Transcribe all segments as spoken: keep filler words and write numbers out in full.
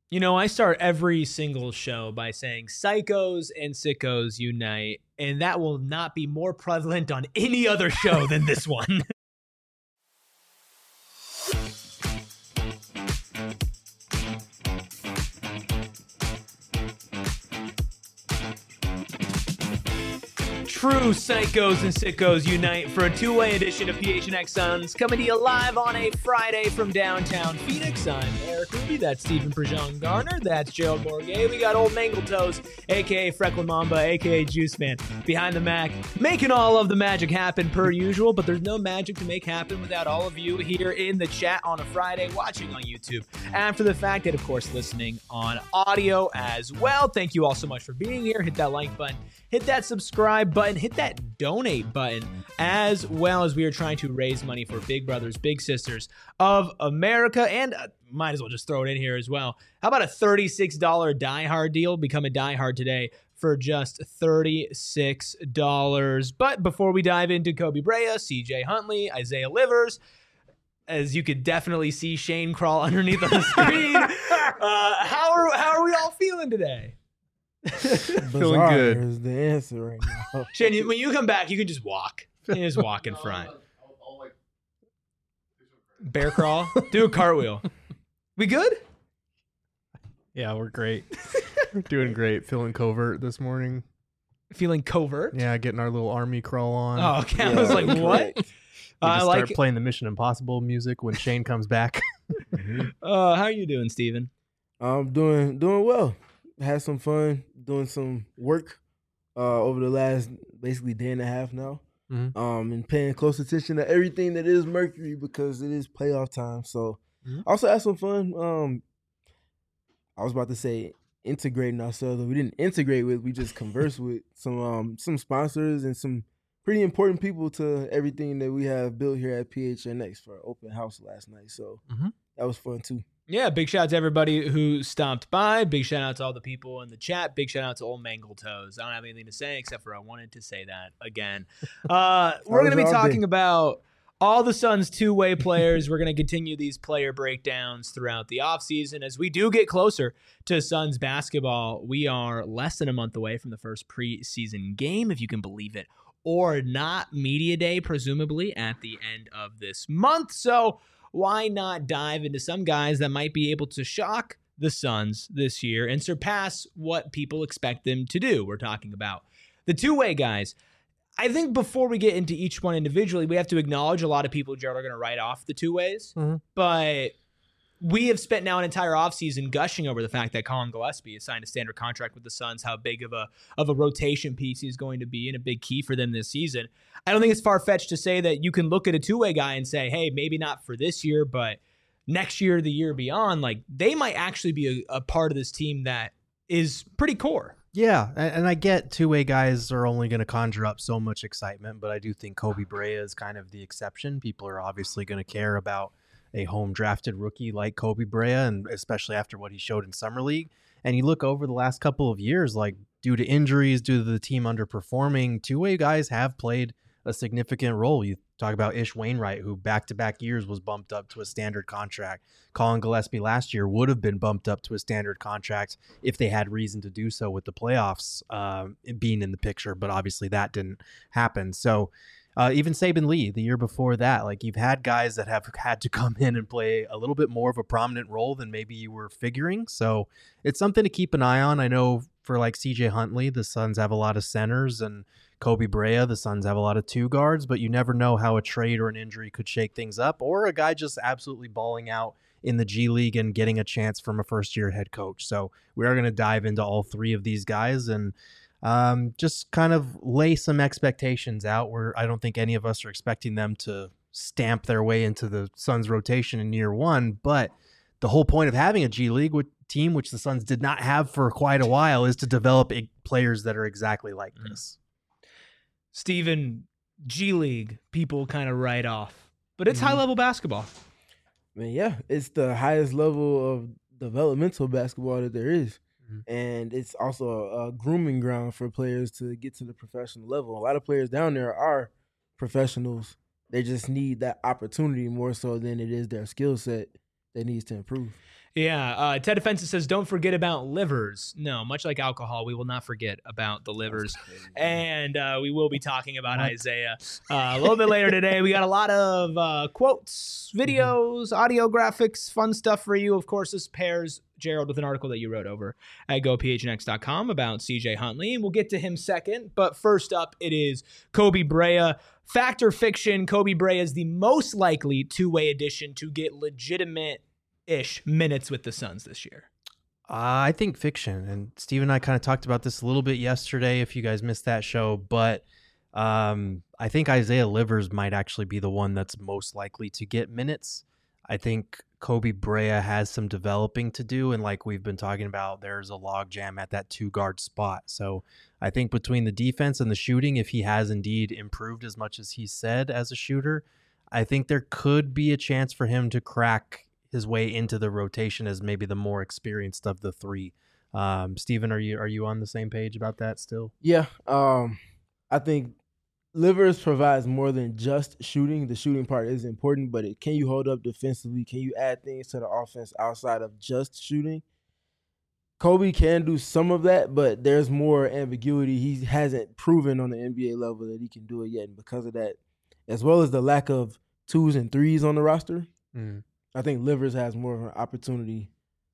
You know, I start every single show by saying psychos and sickos unite, and that will not be more prevalent on any other show than this one. True psychos and sickos unite for a two-way edition of P H N X Suns, coming to you live on a Friday from downtown Phoenix. I'm Eric Ruby, that's Stephen Prejean Garner, that's Gerald Morgay. We got old Mangletoes, a k a. Frecklin Mamba, a k a. Juice Man, behind the Mac, making all of the magic happen per usual, but there's no magic to make happen without all of you here in the chat on a Friday, watching on YouTube after the fact, and of course listening on audio as well. Thank you all so much for being here. Hit that like button, hit that subscribe button, hit that donate button, as well as we are trying to raise money for Big Brothers Big Sisters of America. And uh, might as well just throw it in here as well. How about a thirty-six dollars Die Hard deal? Become a Die Hard today for just thirty-six dollars. But before we dive into Kobe Brea, C J Huntley, Isaiah Livers, as you could definitely see Shane crawl underneath on the screen, uh, how are how are we all feeling today? Feeling good is the answer right now. Shane, when you come back, you can just walk. You can just walk in front. Bear crawl. Do a cartwheel. We good? Yeah, we're great. We're doing great. Feeling covert this morning. Feeling covert? Yeah, getting our little army crawl on. Oh, okay. Yeah, I was like, what? We I just like start it. playing the Mission Impossible music when Shane comes back. Uh, how are you doing, Steven? I'm doing doing well. Had some fun doing some work uh, over the last basically day and a half now. Mhm. Um, and paying close attention to everything that is Mercury because it is playoff time. So Mhm. also had some fun. Um, I was about to say integrating ourselves. We didn't integrate with. We just conversed with some um some sponsors and some pretty important people to everything that we have built here at P H N X for our open house last night. So Mhm. that was fun too. Yeah, big shout out to everybody who stopped by. Big shout out to all the people in the chat. Big shout out to old Mangletoes. I don't have anything to say except for I wanted to say that again. Uh, we're going to be was all talking day. about all the Suns' two-way players. We're going to continue these player breakdowns throughout the offseason as we do get closer to Suns basketball. We are less than a month away from the first preseason game, if you can believe it or not. Media Day, presumably, at the end of this month. So why not dive into some guys that might be able to shock the Suns this year and surpass what people expect them to do? We're talking about the two-way guys. I think before we get into each one individually, we have to acknowledge a lot of people, Jared, are going to write off the two-ways. Mhm. But we have spent now an entire offseason gushing over the fact that Colin Gillespie has signed a standard contract with the Suns, how big of a of a rotation piece he's going to be and a big key for them this season. I don't think it's far-fetched to say that you can look at a two-way guy and say, hey, maybe not for this year, but next year, the year beyond, like they might actually be a, a part of this team that is pretty core. Yeah, and, and I get two-way guys are only going to conjure up so much excitement, but I do think Kobe Brea is kind of the exception. People are obviously going to care about a home drafted rookie like Kobe Brea, and especially after what he showed in Summer League. And you look over the last couple of years, like due to injuries, due to the team underperforming, two-way guys have played a significant role. You talk about Ish Wainwright, who back-to-back years was bumped up to a standard contract. Colin Gillespie last year would have been bumped up to a standard contract if they had reason to do so with the playoffs um, being in the picture, but obviously that didn't happen. So Uh, even Saban Lee, the year before that, like you've had guys that have had to come in and play a little bit more of a prominent role than maybe you were figuring. So it's something to keep an eye on. I know for like C J Huntley, the Suns have a lot of centers, and Kobe Brea, the Suns have a lot of two guards, but you never know how a trade or an injury could shake things up, or a guy just absolutely balling out in the G League and getting a chance from a first year head coach. So we are going to dive into all three of these guys and Um, just kind of lay some expectations out where I don't think any of us are expecting them to stamp their way into the Suns rotation in year one. But the whole point of having a G League team, which the Suns did not have for quite a while, is to develop players that are exactly like this. Steven, G League, people kind of write off, but it's Mhm. high-level basketball. I mean, yeah, it's the highest level of developmental basketball that there is. Mhm. And it's also a, a grooming ground for players to get to the professional level. A lot of players down there are professionals. They just need that opportunity more so than it is their skill set that needs to improve. Yeah, uh, Ted Offensive says, don't forget about livers. No, much like alcohol, we will not forget about the livers. And uh, we will be talking about What? Isaiah uh, a little bit later today. We got a lot of uh, quotes, videos, audio graphics, fun stuff for you. Of course, this pairs Gerald with an article that you wrote over at go p h n x dot com about C J Huntley, and we'll get to him second. But first up, it is Koby Brea. Fact or fiction, Koby Brea is the most likely two-way addition to get legitimate ish minutes with the Suns this year. Uh, I think fiction, and Steve and I kind of talked about this a little bit yesterday if you guys missed that show, but um, I think Isaiah Livers might actually be the one that's most likely to get minutes. I think Koby Brea has some developing to do, and like we've been talking about, there's a logjam at that two-guard spot. So I think between the defense and the shooting, if he has indeed improved as much as he said as a shooter, I think there could be a chance for him to crack his way into the rotation as maybe the more experienced of the three. Um, Steven, are you are you on the same page about that still? Yeah, um, I think Livers provides more than just shooting. The shooting part is important, but it, can you hold up defensively? Can you add things to the offense outside of just shooting? Koby can do some of that, but there's more ambiguity. He hasn't proven on the N B A level that he can do it yet, and because of that, as well as the lack of twos and threes on the roster, mm. I think Livers has more of an opportunity.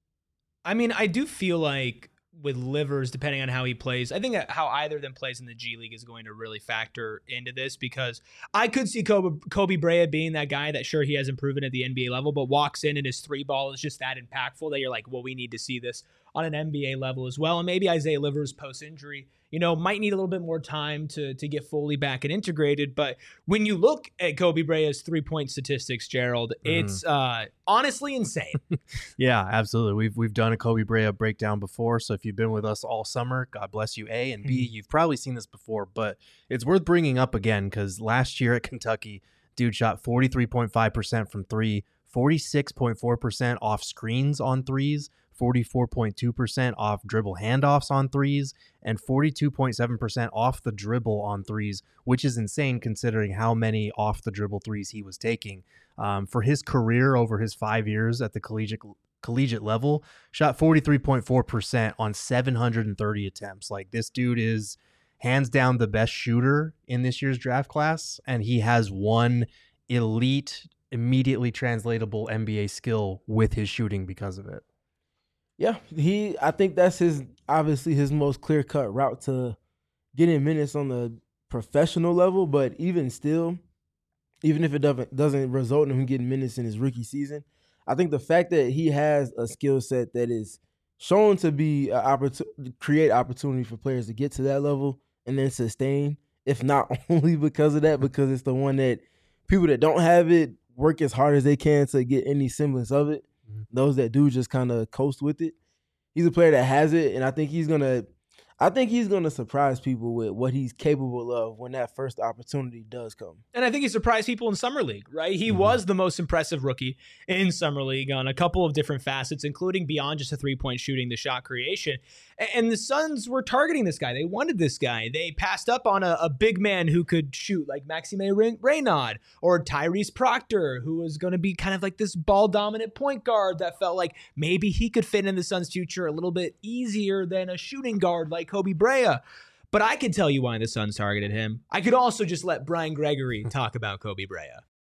I mean, I do feel like with Livers, depending on how he plays, I think that how either of them plays in the G League is going to really factor into this, because I could see Koby, Koby Brea being that guy that, sure, he hasn't proven at the N B A level, but walks in and his three ball is just that impactful that you're like, well, we need to see this on an N B A level as well. And maybe Isaiah Livers post-injury, you know, might need a little bit more time to to get fully back and integrated. But when you look at Koby Brea's three-point statistics, Gerald, mm-hmm. it's uh, honestly insane. Yeah, absolutely. We've we've done a Koby Brea breakdown before, so if you've been with us all summer, God bless you, A. And B, mm-hmm. you've probably seen this before, but it's worth bringing up again because last year at Kentucky, dude shot forty-three point five percent from three, forty-six point four percent off screens on threes, forty-four point two percent off dribble handoffs on threes, and forty-two point seven percent off the dribble on threes, which is insane considering how many off the dribble threes he was taking. Um, for his career over his five years at the collegiate collegiate level, shot forty-three point four percent on seven hundred thirty attempts. Like, this dude is hands down the best shooter in this year's draft class, and he has one elite, immediately translatable N B A skill with his shooting because of it. Yeah, he. I think that's his obviously his most clear-cut route to getting minutes on the professional level. But even still, even if it doesn't doesn't result in him getting minutes in his rookie season, I think the fact that he has a skill set that is shown to be an opportunity, create opportunity for players to get to that level and then sustain, if not only because of that, because it's the one that people that don't have it work as hard as they can to get any semblance of it. Those that do just kind of coast with it. He's a player that has it, and I think he's gonna I think he's going to surprise people with what he's capable of when that first opportunity does come. And I think he surprised people in Summer League, right? He mm-hmm. was the most impressive rookie in Summer League on a couple of different facets, including beyond just a three-point shooting, the shot creation. And the Suns were targeting this guy. They wanted this guy. They passed up on a, a big man who could shoot, like Maxime Reynaud or Tyrese Proctor, who was going to be kind of like this ball-dominant point guard that felt like maybe he could fit in the Suns' future a little bit easier than a shooting guard like Koby Brea. But I can tell you why the Suns targeted him. I could also just let Brian Gregory talk about Koby Brea.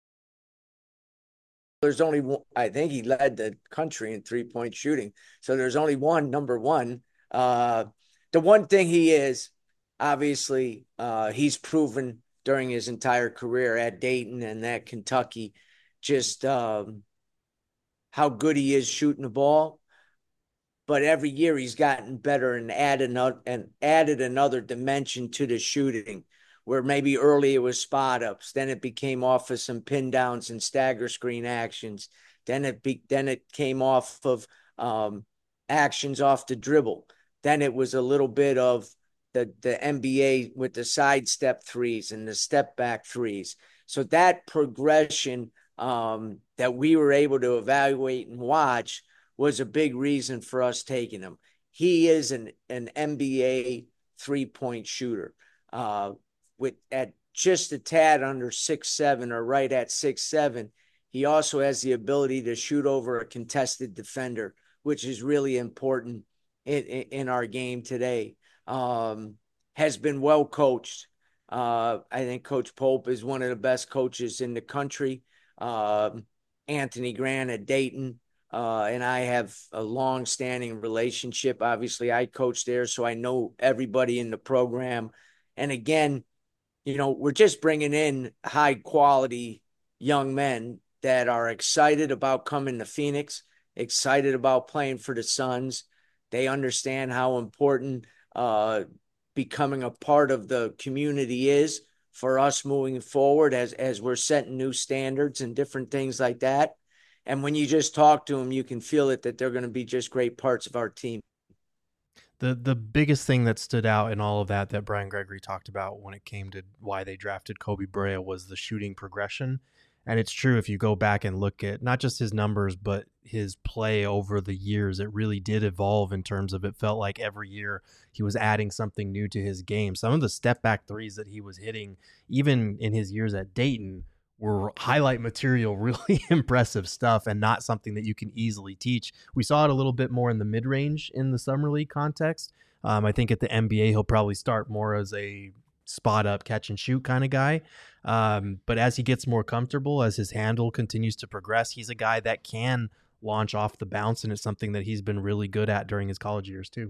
There's only one, I think he led the country in three-point shooting. So there's only one number one. Uh, the one thing he is, obviously, uh, he's proven during his entire career at Dayton and at Kentucky just um, how good he is shooting the ball. But every year he's gotten better and added another, and added another dimension to the shooting, where maybe early it was spot ups, then it became off of some pin downs and stagger screen actions, then it be, then it came off of um, actions off the dribble, then it was a little bit of the the N B A with the sidestep threes and the step back threes. So that progression um, that we were able to evaluate and watch was a big reason for us taking him. He is an, an N B A three-point shooter uh, with at just a tad under six seven or right at six seven. He also has the ability to shoot over a contested defender which is really important in, in, in our game today. Um, has been well coached. Uh, I think Coach Pope is one of the best coaches in the country. Um, Anthony Grant at Dayton, uh, and I have a long-standing relationship. Obviously, I coach there, so I know everybody in the program. And again, you know, we're just bringing in high-quality young men that are excited about coming to Phoenix, excited about playing for the Suns. They understand how important uh, becoming a part of the community is for us moving forward as, as we're setting new standards and different things like that. And when you just talk to them, you can feel it that they're going to be just great parts of our team. The the biggest thing that stood out in all of that that Brian Gregory talked about when it came to why they drafted Koby Brea was the shooting progression. And it's true, if you go back and look at not just his numbers, but his play over the years, it really did evolve in terms of it felt like every year he was adding something new to his game. Some of the step back threes that he was hitting, even in his years at Dayton, were highlight material, really impressive stuff, and not something that you can easily teach. We saw it a little bit more in the mid-range in the Summer League context. Um, I think at the N B A, he'll probably start more as a spot up, catch and shoot kind of guy. Um, but as he gets more comfortable, as his handle continues to progress, he's a guy that can launch off the bounce, and it's something that he's been really good at during his college years too.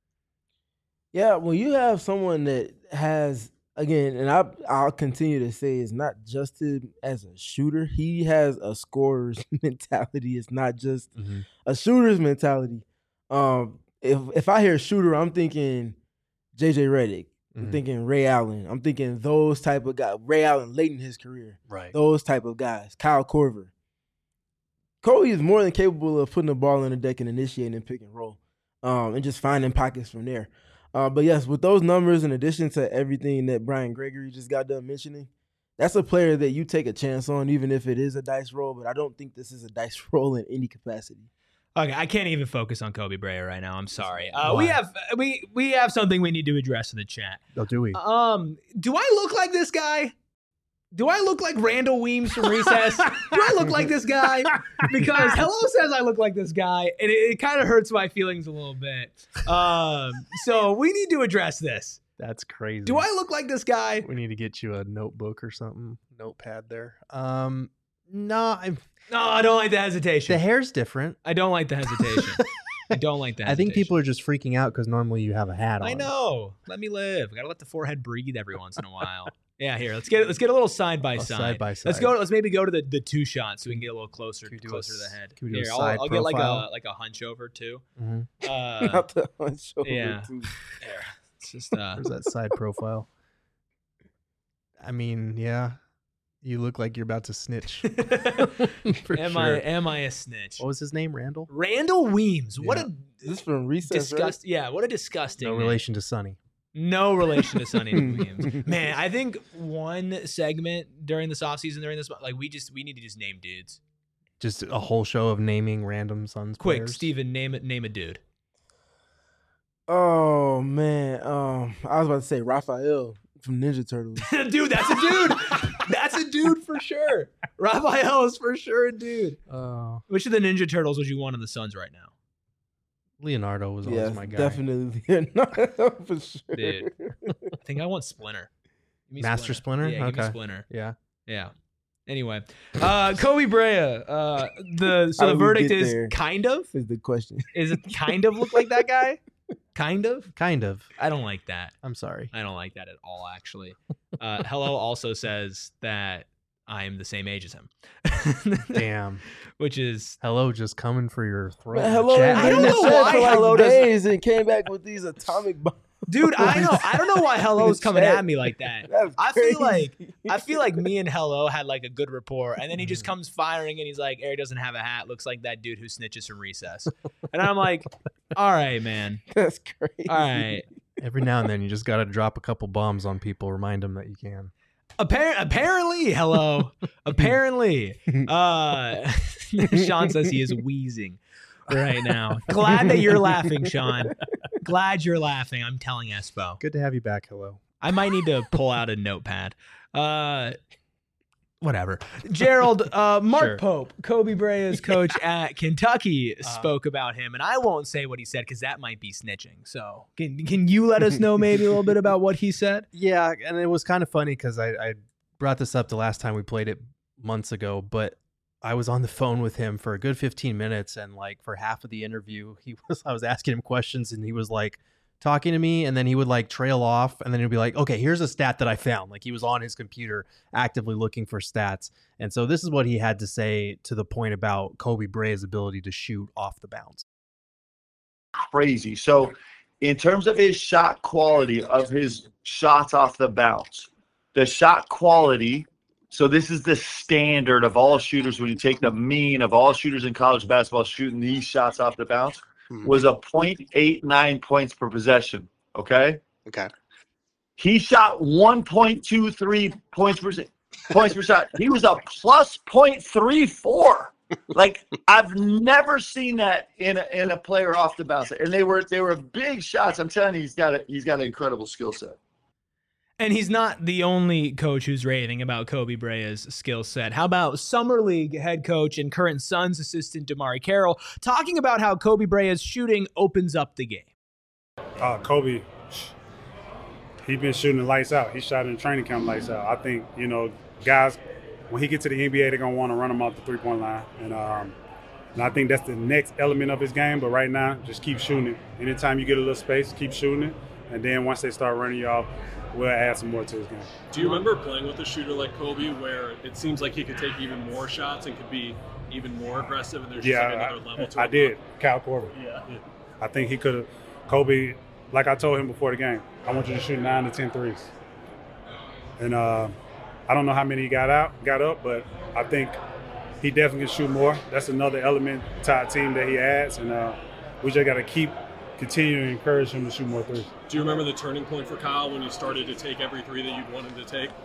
Yeah, when you have someone that has, again, and I, I'll continue to say, it's not just him as a shooter. He has a scorer's mentality. It's not just mm-hmm. a shooter's mentality. Um, if if I hear shooter, I'm thinking J J Redick. I'm mm-hmm. thinking Ray Allen. I'm thinking those type of guys. Ray Allen late in his career. Right. Those type of guys. Kyle Korver. Kobe is more than capable of putting the ball on the deck and initiating and pick and roll, um, and just finding pockets from there. Uh, but, yes, with those numbers, in addition to everything that Brian Gregory just got done mentioning, that's a player that you take a chance on, even if it is a dice roll. But I don't think this is a dice roll in any capacity. Okay, I can't even focus on Koby Brea right now. I'm sorry. Uh, we have we we have something we need to address in the chat. Oh, do we? Um, do I look like this guy? Do I look like Randall Weems from Recess? Do I look like this guy? Because Hello says I look like this guy, and it, it kind of hurts my feelings a little bit. Um, so we need to address this. That's crazy. Do I look like this guy? We need to get you a notebook or something, notepad there. Um, no, I'm. No, I don't like the hesitation. The hair's different. I don't like the hesitation. I don't like that. I think people are just freaking out because normally you have a hat on. I know. Let me live. I gotta let the forehead breathe every once in a while. Yeah, here. Let's get let's get a little side by side. Side by side. Let's go. Let's maybe go to the, the two shots so we can get a little closer closer to the head. Can we do here, a side I'll, I'll get like a like a hunch over too. Mm-hmm. Uh, Not the hunch over yeah. too. There. It's just uh. Where's that side profile? I mean, yeah. You look like you're about to snitch. For am sure. I am I a snitch? What was his name? Randall? Randall Weems. What Yeah. a Is this from Recess, disgust right? yeah, what a disgusting No name. relation to Sonny. No relation to Sonny Weems. Man, I think one segment during this offseason, during this like we just we need to just name dudes. Just a whole show of naming random Suns Quick, players. Steven, name it name a dude. Oh, man. Um, I was about to say Raphael from Ninja Turtles. Dude, that's a dude. That's a dude for sure. Raphael is for sure a dude. Oh, Which of the Ninja Turtles would you want on the Suns right now? Leonardo was always Yeah, my guy. definitely Leonardo for sure. Dude. I think I want Splinter. Give me Master Splinter? Yeah, give me Okay. Splinter. Yeah. Yeah. Anyway, uh, Koby Brea. Uh, the so How the did we verdict get is there? kind of. Is the question. Is it kind of look like that guy? Kind of. Kind of. I don't like that. I'm sorry. I don't like that at all, actually. Uh, Hello also says that I'm the same age as him. Damn. Which is Hello, just coming for your throat. Man, in the hello, chat. I don't been know in the chat why for like Hello doesn't- days and came back with these atomic bombs. dude. I know. I don't know why Hello's coming Chat. at me like that. That's I feel like crazy. I feel like me and Hello had like a good rapport, and then he Mm. just comes firing, and he's like, "Eric doesn't have a hat. Looks like that dude who snitches from Recess." And I'm like, "All right, man. That's crazy. All right." Every now and then, you just got to drop a couple bombs on people. Remind them that you can. Appar- apparently, Hello. Apparently, uh, Sean says he is wheezing right now. Glad that you're laughing, Sean. Glad you're laughing. I'm telling Espo. Good to have you back. Hello. I might need to pull out a notepad. Uh, Whatever. Gerald, uh, Mark Sure. Pope, Kobe Brea's coach at Kentucky, Uh, spoke about him, and I won't say what he said because that might be snitching. So can can you let us know maybe a little bit about what he said? Yeah, and it was kind of funny because I, I brought this up the last time we played it months ago, but I was on the phone with him for a good fifteen minutes, and like for half of the interview, he was I was asking him questions, and he was like talking to me, and then he would like trail off, and then he'd be like, okay, here's a stat that I found. Like he was on his computer actively looking for stats. And so this is what he had to say to the point about Kobe Brea's ability to shoot off the bounce. Crazy. So in terms of his shot quality of his shots off the bounce, the shot quality, so this is the standard of all shooters when you take the mean of all shooters in college basketball shooting these shots off the bounce, was a point eight nine points per possession, okay? Okay. He shot one point two three points per points per shot. He was a plus point three four. Like I've never seen that in a, in a player off the bounce. And they were they were big shots. I'm telling you, he's got a he's got an incredible skill set. And he's not the only coach who's raving about Kobe Brea's skill set. How about Summer League head coach and current Suns assistant DeMarre Carroll talking about how Kobe Brea's shooting opens up the game? Uh, Kobe, he been shooting the lights out. He shot in training camp lights out. I think, you know, guys, when he gets to the N B A, they're going to want to run him off the three-point line. And, um, and I think that's the next element of his game. But right now, just keep shooting it. Anytime you get a little space, keep shooting it. And then once they start running you off, we'll add some more to his game. Do you remember playing with a shooter like Kobe where it seems like he could take even more shots and could be even more aggressive and there's Yeah, just like another I, level to I it? did. Cal Corbin. Yeah. I think he could have – Kobe, like I told him before the game, I want you to shoot nine to ten threes. And uh, I don't know how many he got out, got up, but I think he definitely can shoot more. That's another element to our team that he adds, and uh, we just got to keep – continue to encourage him to shoot more threes. Do you remember the turning point for Kyle when you started to take every three that you'd wanted to take?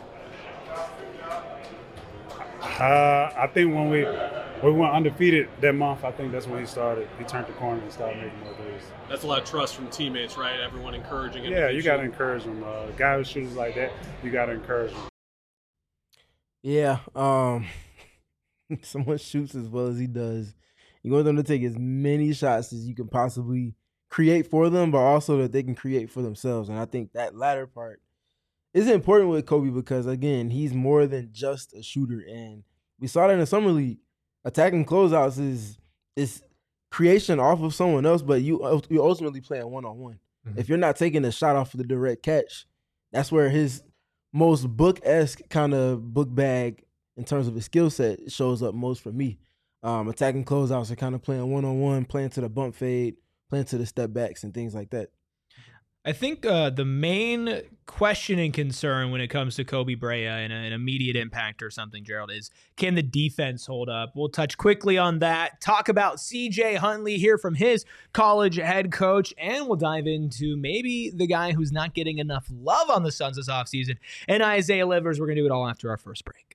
Uh, I think when we when we went undefeated that month, I think that's when he started. He turned the corner and started making more threes. That's a lot of trust from teammates, right? Everyone encouraging him. Yeah, to you keep got to shooting. encourage him. Uh, a guy who shoots like that, you got to encourage him. Yeah, um, someone shoots as well as he does. You want them to take as many shots as you can possibly create for them, but also that they can create for themselves. And I think that latter part is important with Kobe because, again, he's more than just a shooter. And we saw that in the Summer League. Attacking closeouts is is creation off of someone else, but you you ultimately play a one-on-one. Mm-hmm. If you're not taking a shot off of the direct catch, that's where his most book-esque kind of book bag in terms of his skill set shows up most for me. Um, attacking closeouts are kind of playing one-on-one, playing to the bump fade, playing to the step backs and things like that. I think uh, the main question and concern when it comes to Kobe Brea and an immediate impact or something, Gerald, is can the defense hold up? We'll touch quickly on that, talk about C J Huntley, hear from his college head coach, and we'll dive into maybe the guy who's not getting enough love on the Suns this offseason, and Isaiah Livers. We're going to do it all after our first break.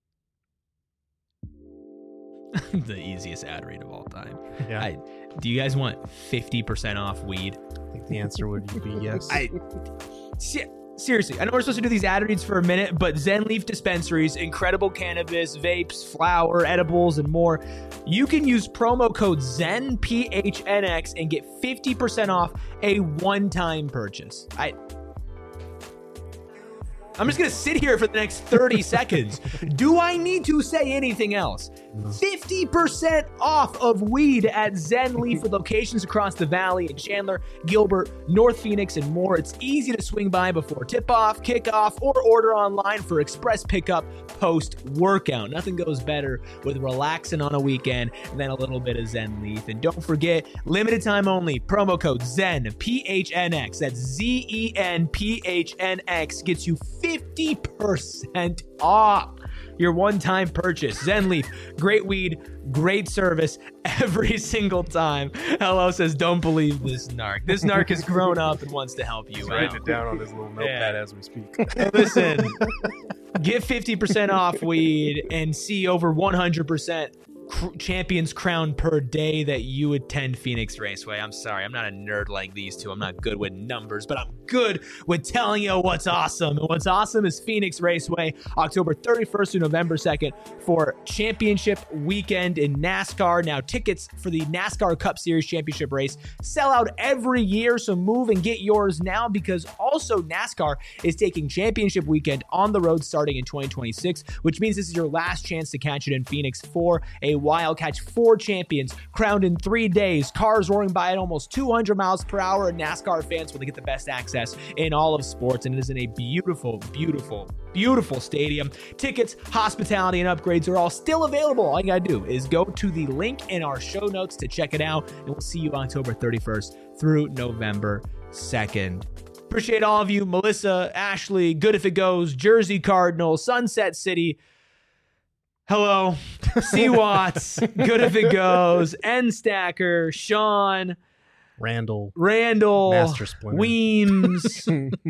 The easiest ad read of all time. Yeah. I, do you guys want fifty percent off weed? I think the answer would be yes. I se- seriously, I know we're supposed to do these ad reads for a minute, but Zen Leaf Dispensaries, incredible cannabis, vapes, flower, edibles, and more. You can use promo code Zen P H N X and get fifty percent off a one-time purchase. I. I'm just going to sit here for the next thirty seconds. Do I need to say anything else? fifty percent off of weed at Zen Leaf with locations across the valley in Chandler, Gilbert, North Phoenix, and more. It's easy to swing by before tip-off, kickoff, or order online for express pickup post-workout. Nothing goes better with relaxing on a weekend than a little bit of Zen Leaf. And don't forget, limited time only, promo code Zen, P H N X. That's Z E N P H N X. Gets you fifty percent off your one-time purchase. Zen Leaf, great weed, great service every single time. Hello says, don't believe this narc. This narc has grown up and wants to help you He's out. writing it down on his little notepad Yeah. as we speak. Listen, get fifty percent off weed and see over one hundred percent cr- champions crowned per day that you attend Phoenix Raceway. I'm sorry, I'm not a nerd like these two. I'm not good with numbers, but I'm good with telling you what's awesome. And what's awesome is Phoenix Raceway, October thirty-first to November second for championship weekend in NASCAR. Now, tickets for the NASCAR Cup Series Championship race sell out every year, so move and get yours now, because also NASCAR is taking championship weekend on the road starting in twenty twenty-six, which means this is your last chance to catch it in Phoenix for a while. Catch four champions crowned in three days, cars roaring by at almost two hundred miles per hour, and NASCAR fans will get the best access in all of sports, and it is in a beautiful, beautiful, beautiful stadium. Tickets, hospitality, and upgrades are all still available. All you gotta do is go to the link in our show notes to check it out, and we'll see you October thirty-first through November second. Appreciate all of you. Melissa, Ashley, Good If It Goes, Jersey Cardinal, Sunset City. Hello. C. Watts, Good If It Goes, N. Stacker, Sean, Randall, Randall, Master Splinter, Weems,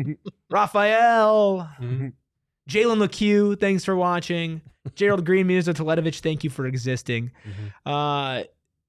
Raphael, Mhm. Jalen LeCue, thanks for watching. Gerald Green, Mirza Toledovich, thank you for existing. Mhm. Uh,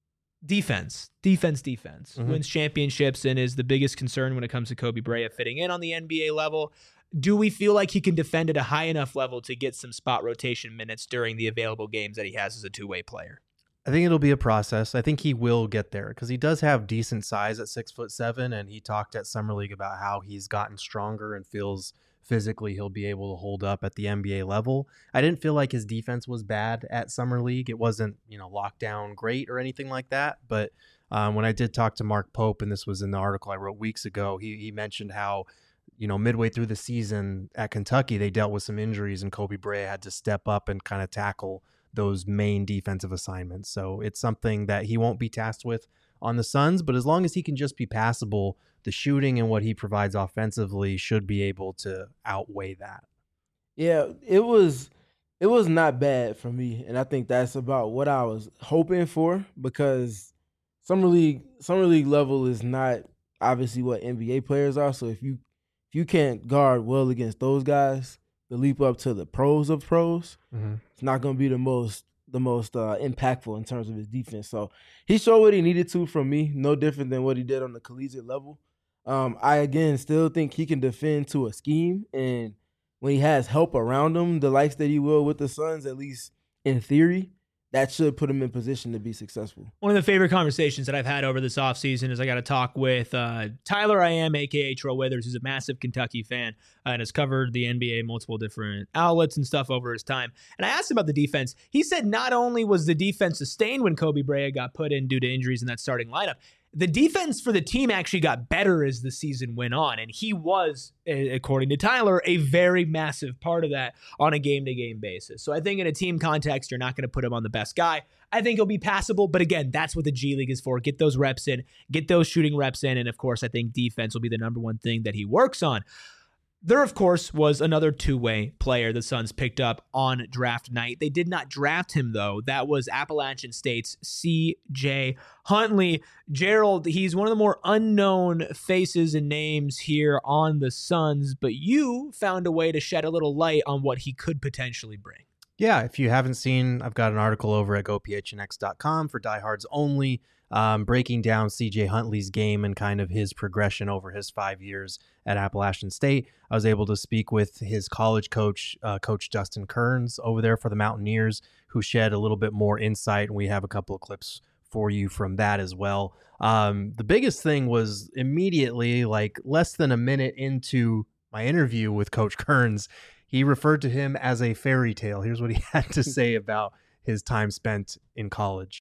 defense, defense, defense. Mhm. Wins championships and is the biggest concern when it comes to Kobe Bryant fitting in on the N B A level. Do we feel like he can defend at a high enough level to get some spot rotation minutes during the available games that he has as a two-way player? I think it'll be a process. I think he will get there because he does have decent size at six foot seven, and he talked at Summer League about how he's gotten stronger and feels physically he'll be able to hold up at the N B A level. I didn't feel like his defense was bad at Summer League. It wasn't, you know, locked down great or anything like that. But um, when I did talk to Mark Pope, and this was in the article I wrote weeks ago, he he mentioned how, you know, midway through the season at Kentucky, they dealt with some injuries, and Kobe Bryant had to step up and kind of tackle those main defensive assignments. So it's something that he won't be tasked with on the Suns, but as long as he can just be passable, the shooting and what he provides offensively should be able to outweigh that. Yeah, it was it was not bad for me, and I think that's about what I was hoping for, because summer league summer league level is not obviously what N B A players are. So if you if you can't guard well against those guys, the leap up to the pros of pros, Mm-hmm. it's not going to be the most the most uh, impactful in terms of his defense. So he showed what he needed to from me, no different than what he did on the collegiate level. Um, I, again, still think he can defend to a scheme, and when he has help around him, the likes that he will with the Suns, at least in theory, that should put him in position to be successful. One of the favorite conversations that I've had over this offseason is I got to talk with uh, Tyler I am, a k a. Tro Withers, who's a massive Kentucky fan uh, and has covered the N B A multiple different outlets and stuff over his time. And I asked about the defense. He said not only was the defense sustained when Kobe Bryant got put in due to injuries in that starting lineup, the defense for the team actually got better as the season went on. And he was, according to Tyler, a very massive part of that on a game-to-game basis. So I think in a team context, you're not going to put him on the best guy. I think he'll be passable. But again, that's what the G League is for. Get those reps in, get those shooting reps in. And of course, I think defense will be the number one thing that he works on. There, of course, was another two-way player the Suns picked up on draft night. They did not draft him, though. That was Appalachian State's C J Huntley. Gerald, he's one of the more unknown faces and names here on the Suns, but you found a way to shed a little light on what he could potentially bring. Yeah, if you haven't seen, I've got an article over at go p h n x dot com for diehards only, um, breaking down C J Huntley's game and kind of his progression over his five years at Appalachian State. I was able to speak with his college coach, uh, Coach Dustin Kearns over there for the Mountaineers, who shed a little bit more insight, and we have a couple of clips for you from that as well. Um, the biggest thing was immediately, like less than a minute into my interview with Coach Kearns, he referred to him as a fairy tale. Here's what he had to say about his time spent in college.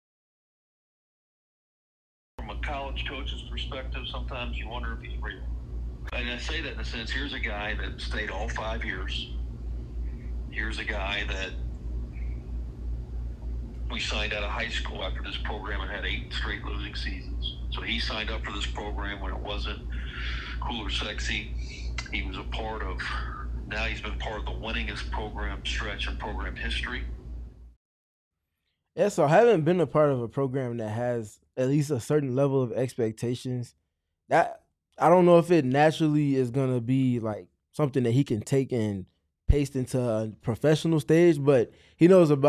From a college coach's perspective, sometimes you wonder if he's real. And I say that in a sense, here's a guy that stayed all five years. Here's a guy that we signed out of high school after this program and had eight straight losing seasons. So he signed up for this program when it wasn't cool or sexy. He was a part of, now he's been part of the winningest program stretch in program history. Yeah, so I haven't been a part of a program that has at least a certain level of expectations. That I don't know if it naturally is going to be like something that he can take and paste into a professional stage, but he knows about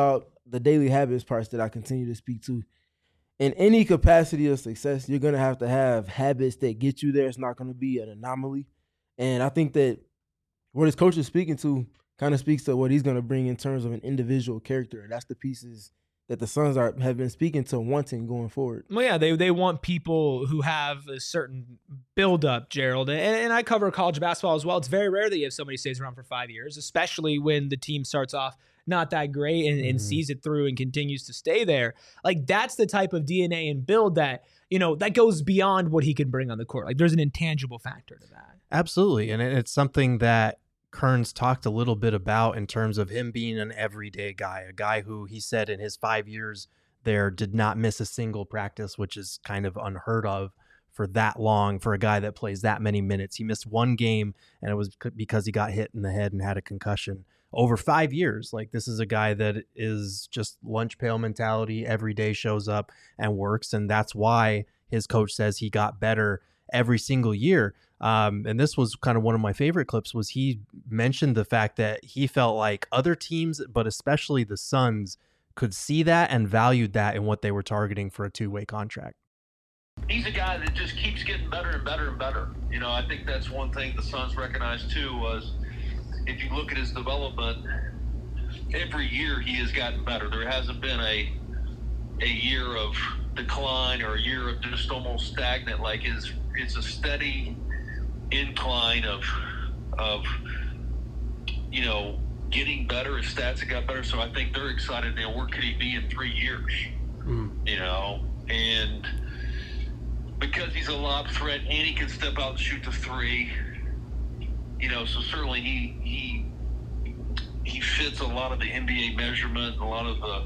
the daily habits parts that I continue to speak to. In any capacity of success, you're going to have to have habits that get you there. It's not going to be an anomaly. And I think that what his coach is speaking to kind of speaks to what he's going to bring in terms of an individual character. And that's the pieces that the Suns are have been speaking to wanting going forward. Well, yeah, they they want people who have a certain build-up, Gerald. And, and I cover college basketball as well. It's very rare that you have somebody who stays around for five years, especially when the team starts off not that great and, and mm-hmm. sees it through and continues to stay there. Like, that's the type of D N A and build that, you know, that goes beyond what he can bring on the court. Like, there's an intangible factor to that. Absolutely. And it's something that Kearns talked a little bit about in terms of him being an everyday guy, a guy who he said in his five years there did not miss a single practice, which is kind of unheard of for that long for a guy that plays that many minutes. He missed one game, and it was because he got hit in the head and had a concussion. Over five years, like, this is a guy that is just lunch pail mentality, every day shows up and works, and that's why his coach says he got better every single year. Um, and this was kind of one of my favorite clips, was he mentioned the fact that he felt like other teams, but especially the Suns, could see that and valued that in what they were targeting for a two-way contract. He's a guy that just keeps getting better and better and better. You know, I think that's one thing the Suns recognized too, was if you look at his development, every year he has gotten better. There hasn't been a a year of decline or a year of just almost stagnant. Like, his, it's a steady incline of, of, you know, getting better. His stats have got better. So I think they're excited. You know, where could he be in three years? Mm. You know, and because he's a lob threat and he can step out and shoot the three, you know, so certainly he he he fits a lot of the N B A measurement, a lot of the,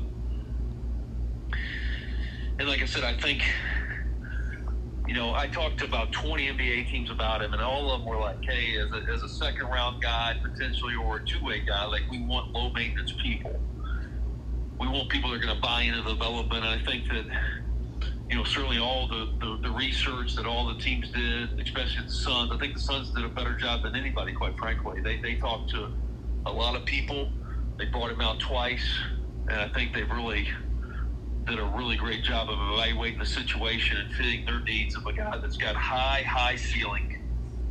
and like I said, I think, you know, I talked to about twenty N B A teams about him, and all of them were like, hey, as a, as a second round guy potentially, or a two-way guy, like, we want low maintenance people. We want people that are going to buy into the development. And I think that, you know, certainly all the, the, the research that all the teams did, especially the Suns, I think the Suns did a better job than anybody, quite frankly. They they talked to a lot of people. They brought him out twice, and I think they've really did a really great job of evaluating the situation and fitting their needs of a guy that's got high, high ceiling.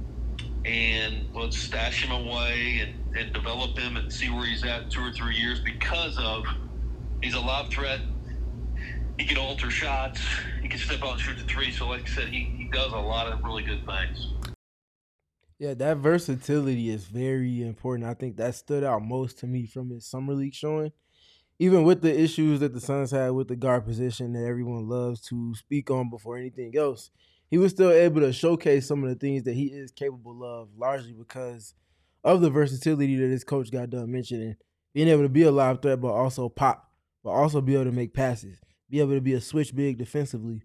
And let's stash him away and, and develop him and see where he's at in two or three years, because of he's a lob threat. He can alter shots. He can step out and shoot the three. So like I said, he, he does a lot of really good things. Yeah, that versatility is very important. I think that stood out most to me from his summer league showing. Even with the issues that the Suns had with the guard position that everyone loves to speak on before anything else, he was still able to showcase some of the things that he is capable of, largely because of the versatility that his coach got done mentioning. Being able to be a live threat, but also pop, but also be able to make passes, be able to be a switch big defensively.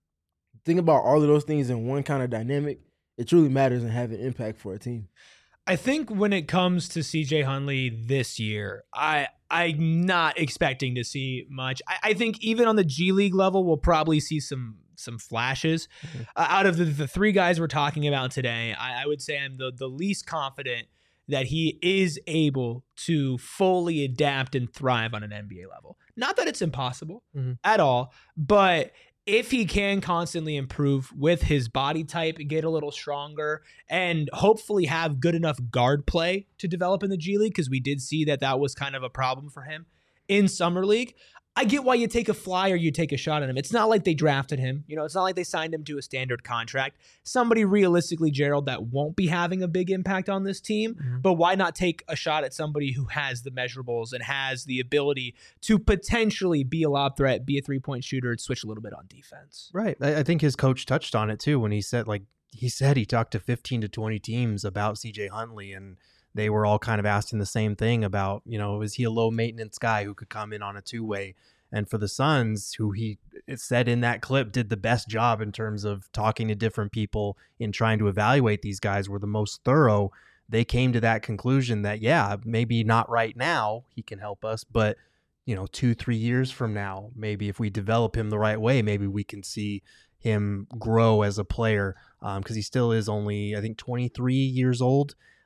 Think about all of those things in one kind of dynamic. It truly matters and have an impact for a team. I think when it comes to C J Huntley this year, I, I'm not expecting to see much. I, I think even on the G League level, we'll probably see some some flashes. Mm-hmm. Uh, out of the, the three guys we're talking about today, I, I would say I'm the, the least confident that he is able to fully adapt and thrive on an N B A level. Not that it's impossible mm-hmm. at all, but if he can constantly improve with his body type and get a little stronger and hopefully have good enough guard play to develop in the G League, because we did see that that was kind of a problem for him in Summer League, I get why you take a flyer, you take a shot at him. It's not like they drafted him. You know, it's not like they signed him to a standard contract. Somebody realistically, Gerald, that won't be having a big impact on this team. Mm-hmm. But why not take a shot at somebody who has the measurables and has the ability to potentially be a lob threat, be a three-point shooter, and switch a little bit on defense? Right. I think his coach touched on it too when he said, like, he said he talked to fifteen to twenty teams about C J Huntley, and they were all kind of asking the same thing about, you know, is he a low maintenance guy who could come in on a two-way? And for the Suns, who he it said in that clip did the best job in terms of talking to different people in trying to evaluate these guys, were the most thorough, they came to that conclusion that, yeah, maybe not right now he can help us, but, you know, two, three years from now, maybe if we develop him the right way, maybe we can see him grow as a player, because um, he still is only, I think, twenty-three years old.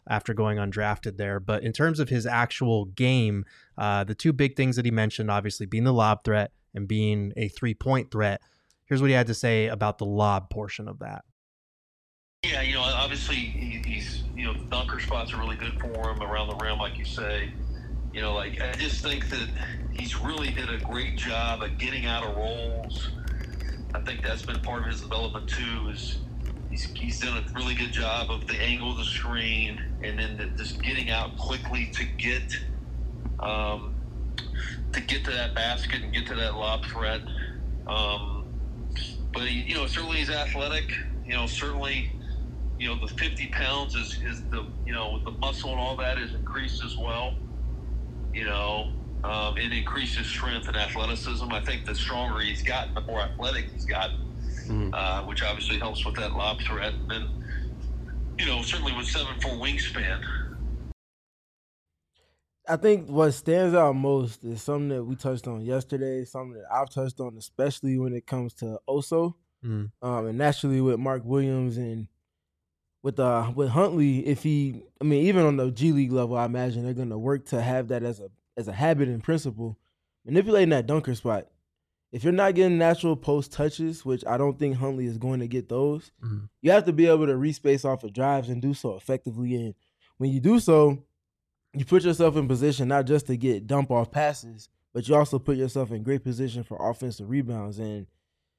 after going undrafted there. But in terms of his actual game, uh, the two big things that he mentioned, obviously being the lob threat and being a three-point threat. Here's what he had to say about the lob portion of that. Yeah, you know, obviously he, he's, you know, the dunker spots are really good for him around the rim, like you say. You know, like, I just think that he's really did a great job of getting out of rolls. I think that's been part of his development too, is he's, he's done a really good job of the angle of the screen and then the, just getting out quickly to get um, to get to that basket and get to that lob threat. Um, but, he, you know, certainly he's athletic. You know, certainly, you know, the fifty pounds is, is the, you know, the muscle and all that is increased as well. You know, um, it increases strength and athleticism. I think the stronger he's gotten, the more athletic he's gotten, mm. uh, which obviously helps with that lob threat. And then, you know, certainly with seven four wingspan. I think what stands out most is something that we touched on yesterday, something that I've touched on, especially when it comes to Oso, mm. um, and naturally with Mark Williams and with uh with Huntley. If he, I mean, even on the G League level, I imagine they're going to work to have that as a as a habit and principle, manipulating that dunker spot. If you're not getting natural post touches, which I don't think Huntley is going to get those, mm-hmm. you have to be able to respace off of drives and do so effectively. And when you do so, you put yourself in position not just to get dump off passes, but you also put yourself in great position for offensive rebounds. And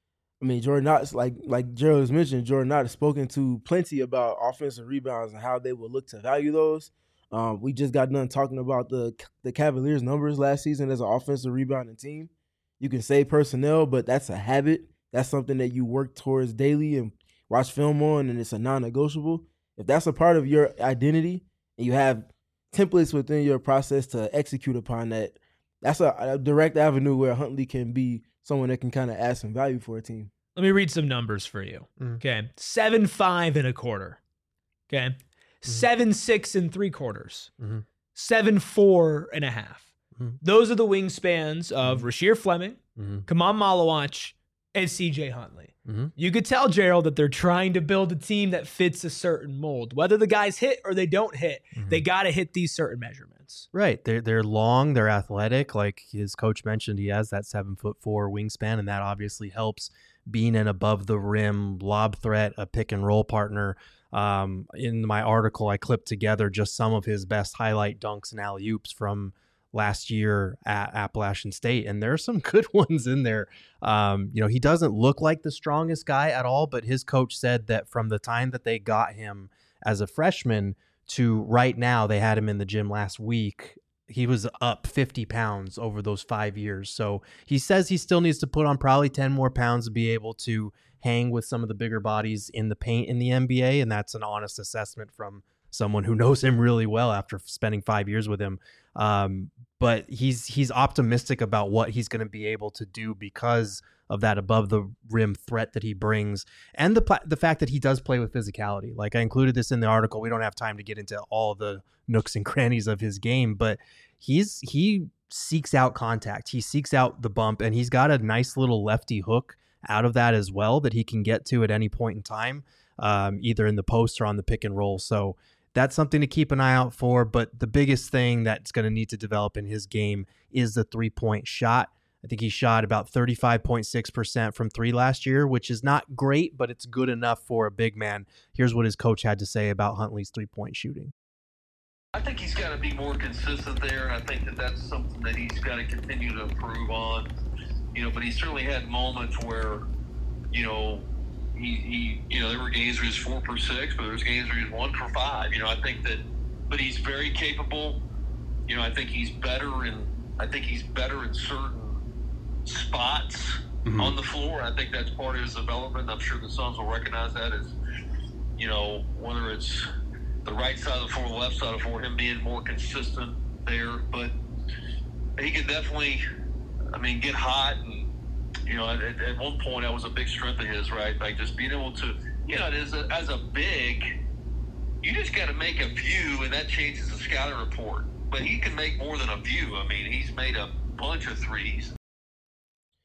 I mean, Jordan Knox, like like Gerald has mentioned, Jordan Knox has spoken to plenty about offensive rebounds and how they will look to value those. Um, we just got done talking about the the Cavaliers' numbers last season as an offensive rebounding team. You can say personnel, but that's a habit. That's something that you work towards daily and watch film on, and it's a non-negotiable. If that's a part of your identity and you have templates within your process to execute upon that, that's a, a direct avenue where Huntley can be someone that can kind of add some value for a team. Let me read some numbers for you. Mm. Okay. Seven, five and a quarter. Okay. Mm-hmm. Seven, six and three quarters. Mm-hmm. Seven, four and a half. Mm-hmm. Those are the wingspans of mm-hmm. Rasheer Fleming, mm-hmm. Kaman Malawach, and C J Huntley. Mm-hmm. You could tell, Gerald, that they're trying to build a team that fits a certain mold. Whether the guys hit or they don't hit, mm-hmm. they got to hit these certain measurements. Right. They're, they're long, they're athletic. Like his coach mentioned, he has that seven foot four wingspan, and that obviously helps being an above the rim lob threat, a pick and roll partner. Um, in my article, I clipped together just some of his best highlight dunks and alley-oops from last year at Appalachian State, and there are some good ones in there. Um, you know, he doesn't look like the strongest guy at all, but his coach said that from the time that they got him as a freshman to right now, they had him in the gym last week, he was up fifty pounds over those five years. So he says he still needs to put on probably ten more pounds to be able to hang with some of the bigger bodies in the paint in the N B A, and that's an honest assessment from someone who knows him really well after spending five years with him. Um, but he's he's optimistic about what he's going to be able to do because of that above the rim threat that he brings, and the the fact that he does play with physicality. Like I included this in the article. We don't have time to get into all the nooks and crannies of his game, but he's he seeks out contact. He seeks out the bump, and he's got a nice little lefty hook out of that as well that he can get to at any point in time, um, either in the post or on the pick and roll. So that's something to keep an eye out for. But the biggest thing that's going to need to develop in his game is the three-point shot. I think he shot about thirty-five point six percent from three last year, which is not great, but it's good enough for a big man. Here's what his coach had to say about Huntley's three-point shooting. I think he's got to be more consistent there, and I think that that's something that he's got to continue to improve on. You know, but he certainly had moments where, you know, he, he you know, there were games where he was four for six, but there was games where he was one for five. You know, I think that, but he's very capable. You know, I think he's better in, I think he's better in certain spots mm-hmm. on the floor. I think that's part of his development. I'm sure the Suns will recognize that as, you know, whether it's the right side of the floor, the left side of the floor, him being more consistent there. But he can definitely, I mean, get hot. And, you know, at, at one point that was a big strength of his, right? Like just being able to, you know, as a, as a big, you just got to make a view, and that changes the scouting report. But he can make more than a view. I mean, he's made a bunch of threes.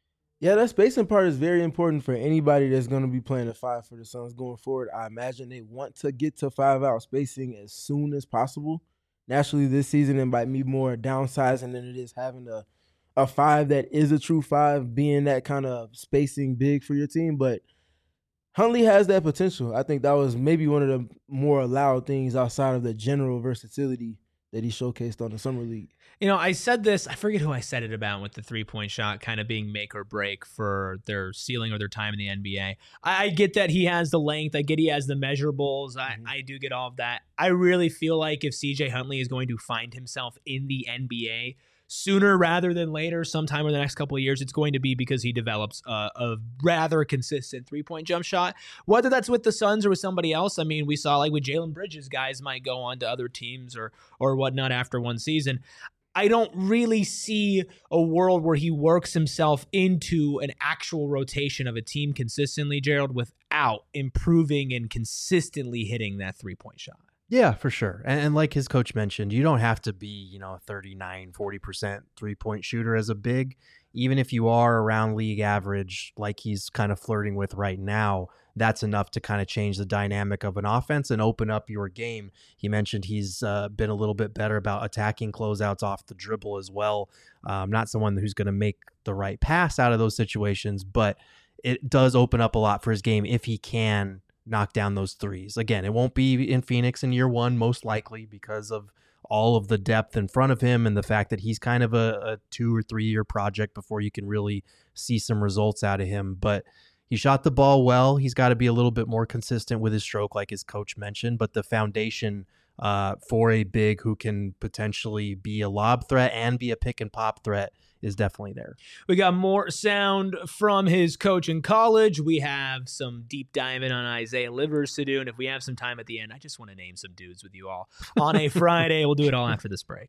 Yeah, that spacing part is very important for anybody that's going to be playing a five for the Suns going forward. I imagine they want to get to five-out spacing as soon as possible. Naturally, this season it might be more downsizing than it is having a, a five that is a true five, being that kind of spacing big for your team. But Huntley has that potential. I think that was maybe one of the more allowed things outside of the general versatility that he showcased on the Summer League. You know, I said this, I forget who I said it about with the three-point shot kind of being make or break for their ceiling or their time in the N B A. I, I get that he has the length. I get he has the measurables. I, mm-hmm. I do get all of that. I really feel like if C J Huntley is going to find himself in the N B A sooner rather than later, sometime in the next couple of years, it's going to be because he develops a, a rather consistent three-point jump shot. Whether that's with the Suns or with somebody else, I mean, we saw like with Jalen Bridges, guys might go on to other teams or or whatnot after one season. I don't really see a world where he works himself into an actual rotation of a team consistently, Gerald, without improving and consistently hitting that three-point shot. Yeah, for sure. And, and like his coach mentioned, you don't have to be, you know, a thirty-nine, forty percent three-point shooter as a big. Even if you are around league average, like he's kind of flirting with right now, that's enough to kind of change the dynamic of an offense and open up your game. He mentioned he's uh, been a little bit better about attacking closeouts off the dribble as well. Um, not someone who's going to make the right pass out of those situations, but it does open up a lot for his game if he can knock down those threes. Again, it won't be in Phoenix in year one, most likely, because of all of the depth in front of him and the fact that he's kind of a, a two or three year project before you can really see some results out of him. But he shot the ball well. He's got to be a little bit more consistent with his stroke, like his coach mentioned, but the foundation uh, for a big who can potentially be a lob threat and be a pick and pop threat is definitely there. We got more sound from his coach in college. We have some deep diving on Isaiah Livers to do. And if we have some time at the end, I just want to name some dudes with you all on a Friday. We'll do it all after this break.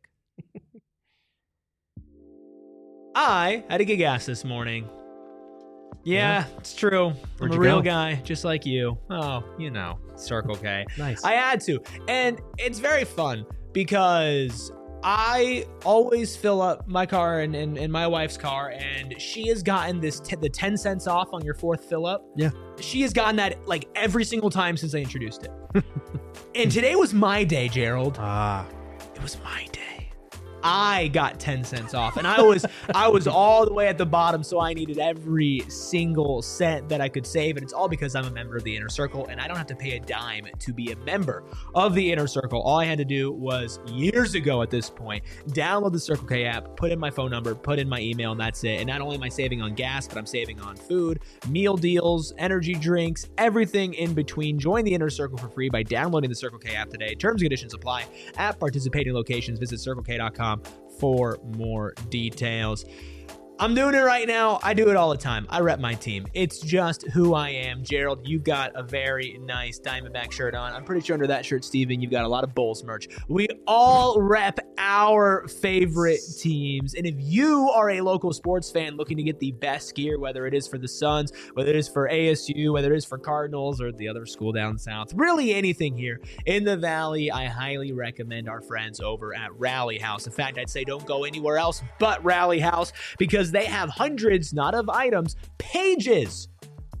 I had a gig ass this morning. Yeah, yeah, it's true. Where'd I'm a you real go? guy, just like you. Oh, you know, Circle K. Nice. I had to. And it's very fun because I always fill up my car and, and, and my wife's car, and she has gotten this t- the ten cents off on your fourth fill up. Yeah. She has gotten that like every single time since I introduced it. And today was my day, Gerald. Ah. It was my day. I got ten cents off, and I was I was all the way at the bottom, so I needed every single cent that I could save, and it's all because I'm a member of the Inner Circle, and I don't have to pay a dime to be a member of the Inner Circle. All I had to do was, years ago at this point, download the Circle K app, put in my phone number, put in my email, and that's it. And not only am I saving on gas, but I'm saving on food, meal deals, energy drinks, everything in between. Join the Inner Circle for free by downloading the Circle K app today. Terms and conditions apply at participating locations. Visit circle k dot com for more details. I'm doing it right now. I do it all the time. I rep my team. It's just who I am. Gerald, you've got a very nice Diamondback shirt on. I'm pretty sure under that shirt, Steven, you've got a lot of Bulls merch. We all rep our favorite teams. And if you are a local sports fan looking to get the best gear, whether it is for the Suns, whether it is for A S U, whether it is for Cardinals or the other school down south, really anything here in the Valley, I highly recommend our friends over at Rally House. In fact, I'd say don't go anywhere else but Rally House, because they have hundreds, not of items, pages.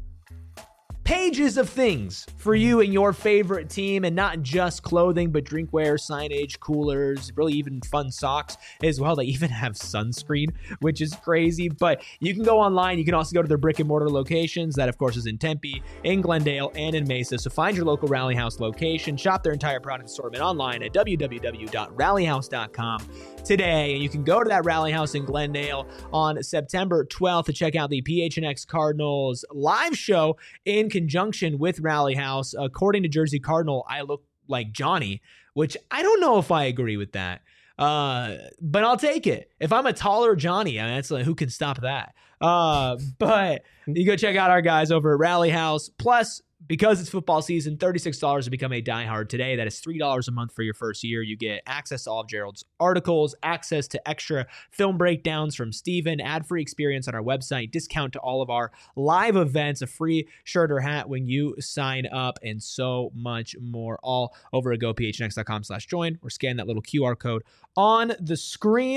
Pages of things for you and your favorite team, and not just clothing, but drinkware, signage, coolers, really even fun socks as well. They even have sunscreen, which is crazy, but you can go online. You can also go to their brick and mortar locations. That, of course, is in Tempe, in Glendale, and in Mesa. So find your local Rally House location. Shop their entire product assortment online at w w w dot rally house dot com today. And you can go to that Rally House in Glendale on September twelfth to check out the P H N X Cardinals live show in conjunction with Rally House. According to Jersey Cardinal, I look like Johnny, which I don't know if I agree with that. Uh, but I'll take it. If I'm a taller Johnny, I mean, that's like, who can stop that? Uh, but you go check out our guys over at Rally House. Plus, because it's football season, thirty-six dollars to become a diehard today. That is three dollars a month for your first year. You get access to all of Gerald's articles, access to extra film breakdowns from Steven, ad-free experience on our website, discount to all of our live events, a free shirt or hat when you sign up, and so much more, all over at go p h n x dot com slash join, or scan that little Q R code on the screen.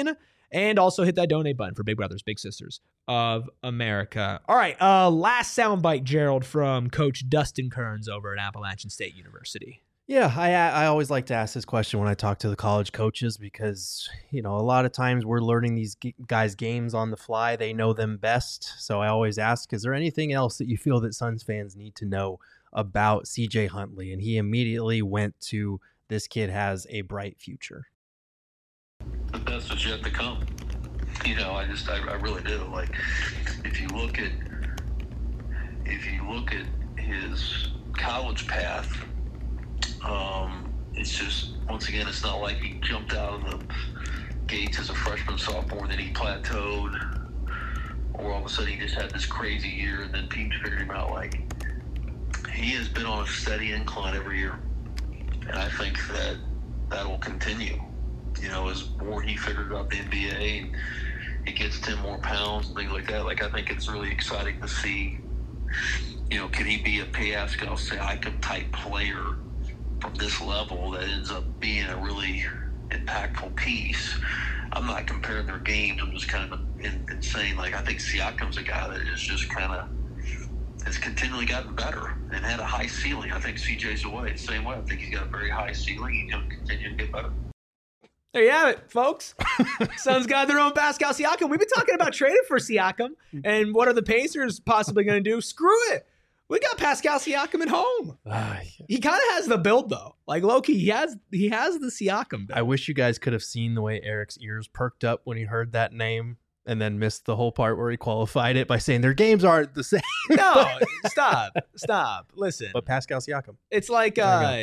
And also hit that donate button for Big Brothers Big Sisters of America. All right, uh, last soundbite, Gerald, from Coach Dustin Kearns over at Appalachian State University. Yeah, I I always like to ask this question when I talk to the college coaches because, you know, a lot of times we're learning these g- guys' games on the fly. They know them best. So I always ask, is there anything else that you feel that Suns fans need to know about C J Huntley? And he immediately went to, this kid has a bright future. The best is yet to come. You know, I just, I, I really do. Like, if you look at, if you look at his college path, um, it's just, once again, it's not like he jumped out of the gates as a freshman, sophomore, and then he plateaued, or all of a sudden he just had this crazy year, and then teams figured him out. Like, he has been on a steady incline every year, and I think that that will continue. You know, as more he figured out the N B A and he gets ten more pounds and things like that, like, I think it's really exciting to see, you know, can he be a Pascal Siakam type player from this level that ends up being a really impactful piece. I'm not comparing their games. I'm just kind of in, in saying, like, I think Siakam's a guy that is just kind of has continually gotten better and had a high ceiling. I think C J's away the same way. I think he's got a very high ceiling. He's going to continue to get better. There you have it, folks. Suns got their own Pascal Siakam. We've been talking about trading for Siakam, and what are the Pacers possibly going to do? Screw it. We got Pascal Siakam at home. Uh, yeah. He kind of has the build, though. Like, low-key, he has he has the Siakam build. I wish you guys could have seen the way Eric's ears perked up when he heard that name and then missed the whole part where he qualified it by saying their games aren't the same. No, stop. Stop. Listen. But Pascal Siakam. It's like, uh,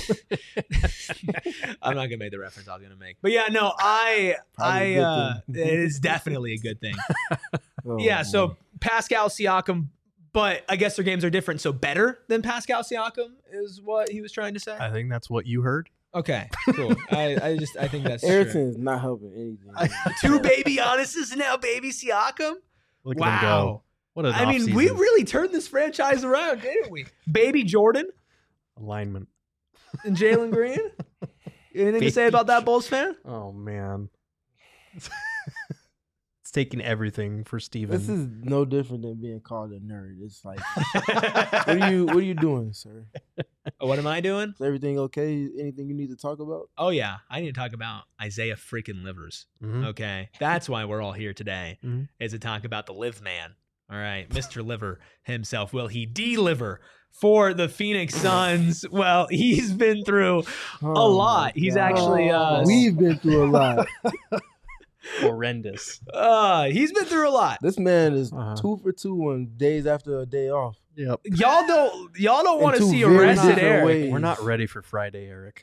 I'm not going to make the reference I was going to make. But yeah, no, I, I, uh, it is definitely a good thing. oh, yeah, so man. Pascal Siakam, but I guess their games are different. So better than Pascal Siakam is what he was trying to say? I think that's what you heard. Okay, cool. I, I just I think that's Ayrton is not helping anything. Two baby Giannis's and now baby Siakam. Look wow. at him go. What an I mean, season. we really turned this franchise around, didn't we? Baby Jordan. Alignment. And Jalen Green. Anything baby. to say about that, Bulls fan? Oh man. It's taking everything for Steven. This is no different than being called a nerd. It's like, what are you, what are you doing, sir? What am I doing? Is everything okay? Anything you need to talk about? Oh yeah, I need to talk about Isaiah freaking Livers. Mm-hmm. Okay, that's why we're all here today. Mm-hmm. Is to talk about the Live Man. All right, Mister Liver himself. Will he deliver for the Phoenix Suns? Well, he's been through oh a lot. He's God. actually uh, we've been through a lot. Horrendous. Uh, he's been through a lot. This man is uh-huh. two for two on days after a day off. Yep. Y'all don't y'all don't want to see arrested Eric. Ways. We're not ready for Friday, Eric.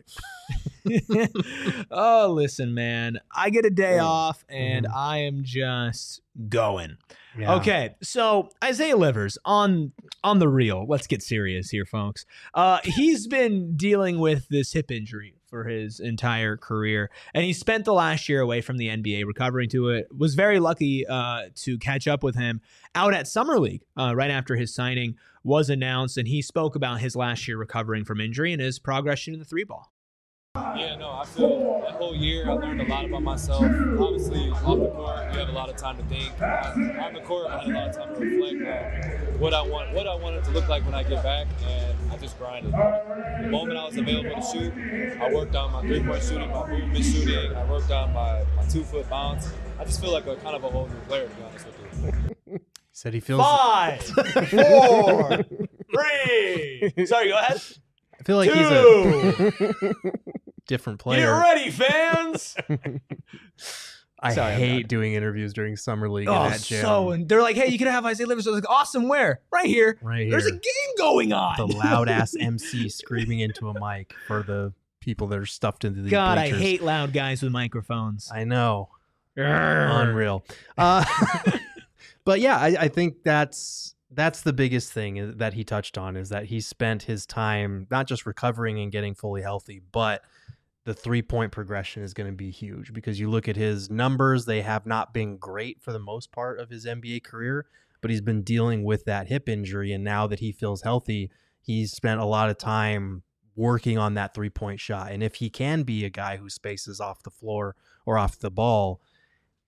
Oh, listen, man. I get a day yeah. off and mm-hmm. I am just going. Yeah. Okay, so Isaiah Livers on on the real. Let's get serious here, folks. Uh, he's been dealing with this hip injury for his entire career, and he spent the last year away from the N B A recovering to it. Was very lucky uh, to catch up with him out at Summer League uh, right after his signing was announced, and he spoke about his last year recovering from injury and his progression in the three ball. Yeah, no, I feel that whole year I learned a lot about myself. Obviously, off the court, you have a lot of time to think. On the court, I had a lot of time to reflect on what I want, what I wanted to look like when I get back, and I just grinded. The moment I was available to shoot, I worked on my three-point shooting, my movement shooting. I worked on my, my two-foot bounce. I just feel like a kind of a whole new player, to be honest with you. Said he feels five, four, three. Sorry, go ahead. I feel like Two. he's a different player. Get ready, fans. I Sorry, hate doing interviews during Summer League. Oh, in that gym. so and they're like, "Hey, you can have Isaiah Livers." I was like, "Awesome, where? Right here. Right here. There's a game going on." The loud ass M C screaming into a mic for the people that are stuffed into the God, bleachers. I hate loud guys with microphones. I know. Urgh. Unreal. Uh, but yeah, I, I think that's. That's the biggest thing that he touched on, is that he spent his time not just recovering and getting fully healthy, but the three-point progression is going to be huge, because you look at his numbers, they have not been great for the most part of his N B A career, but he's been dealing with that hip injury, and now that he feels healthy, he's spent a lot of time working on that three-point shot. And if he can be a guy who spaces off the floor or off the ball,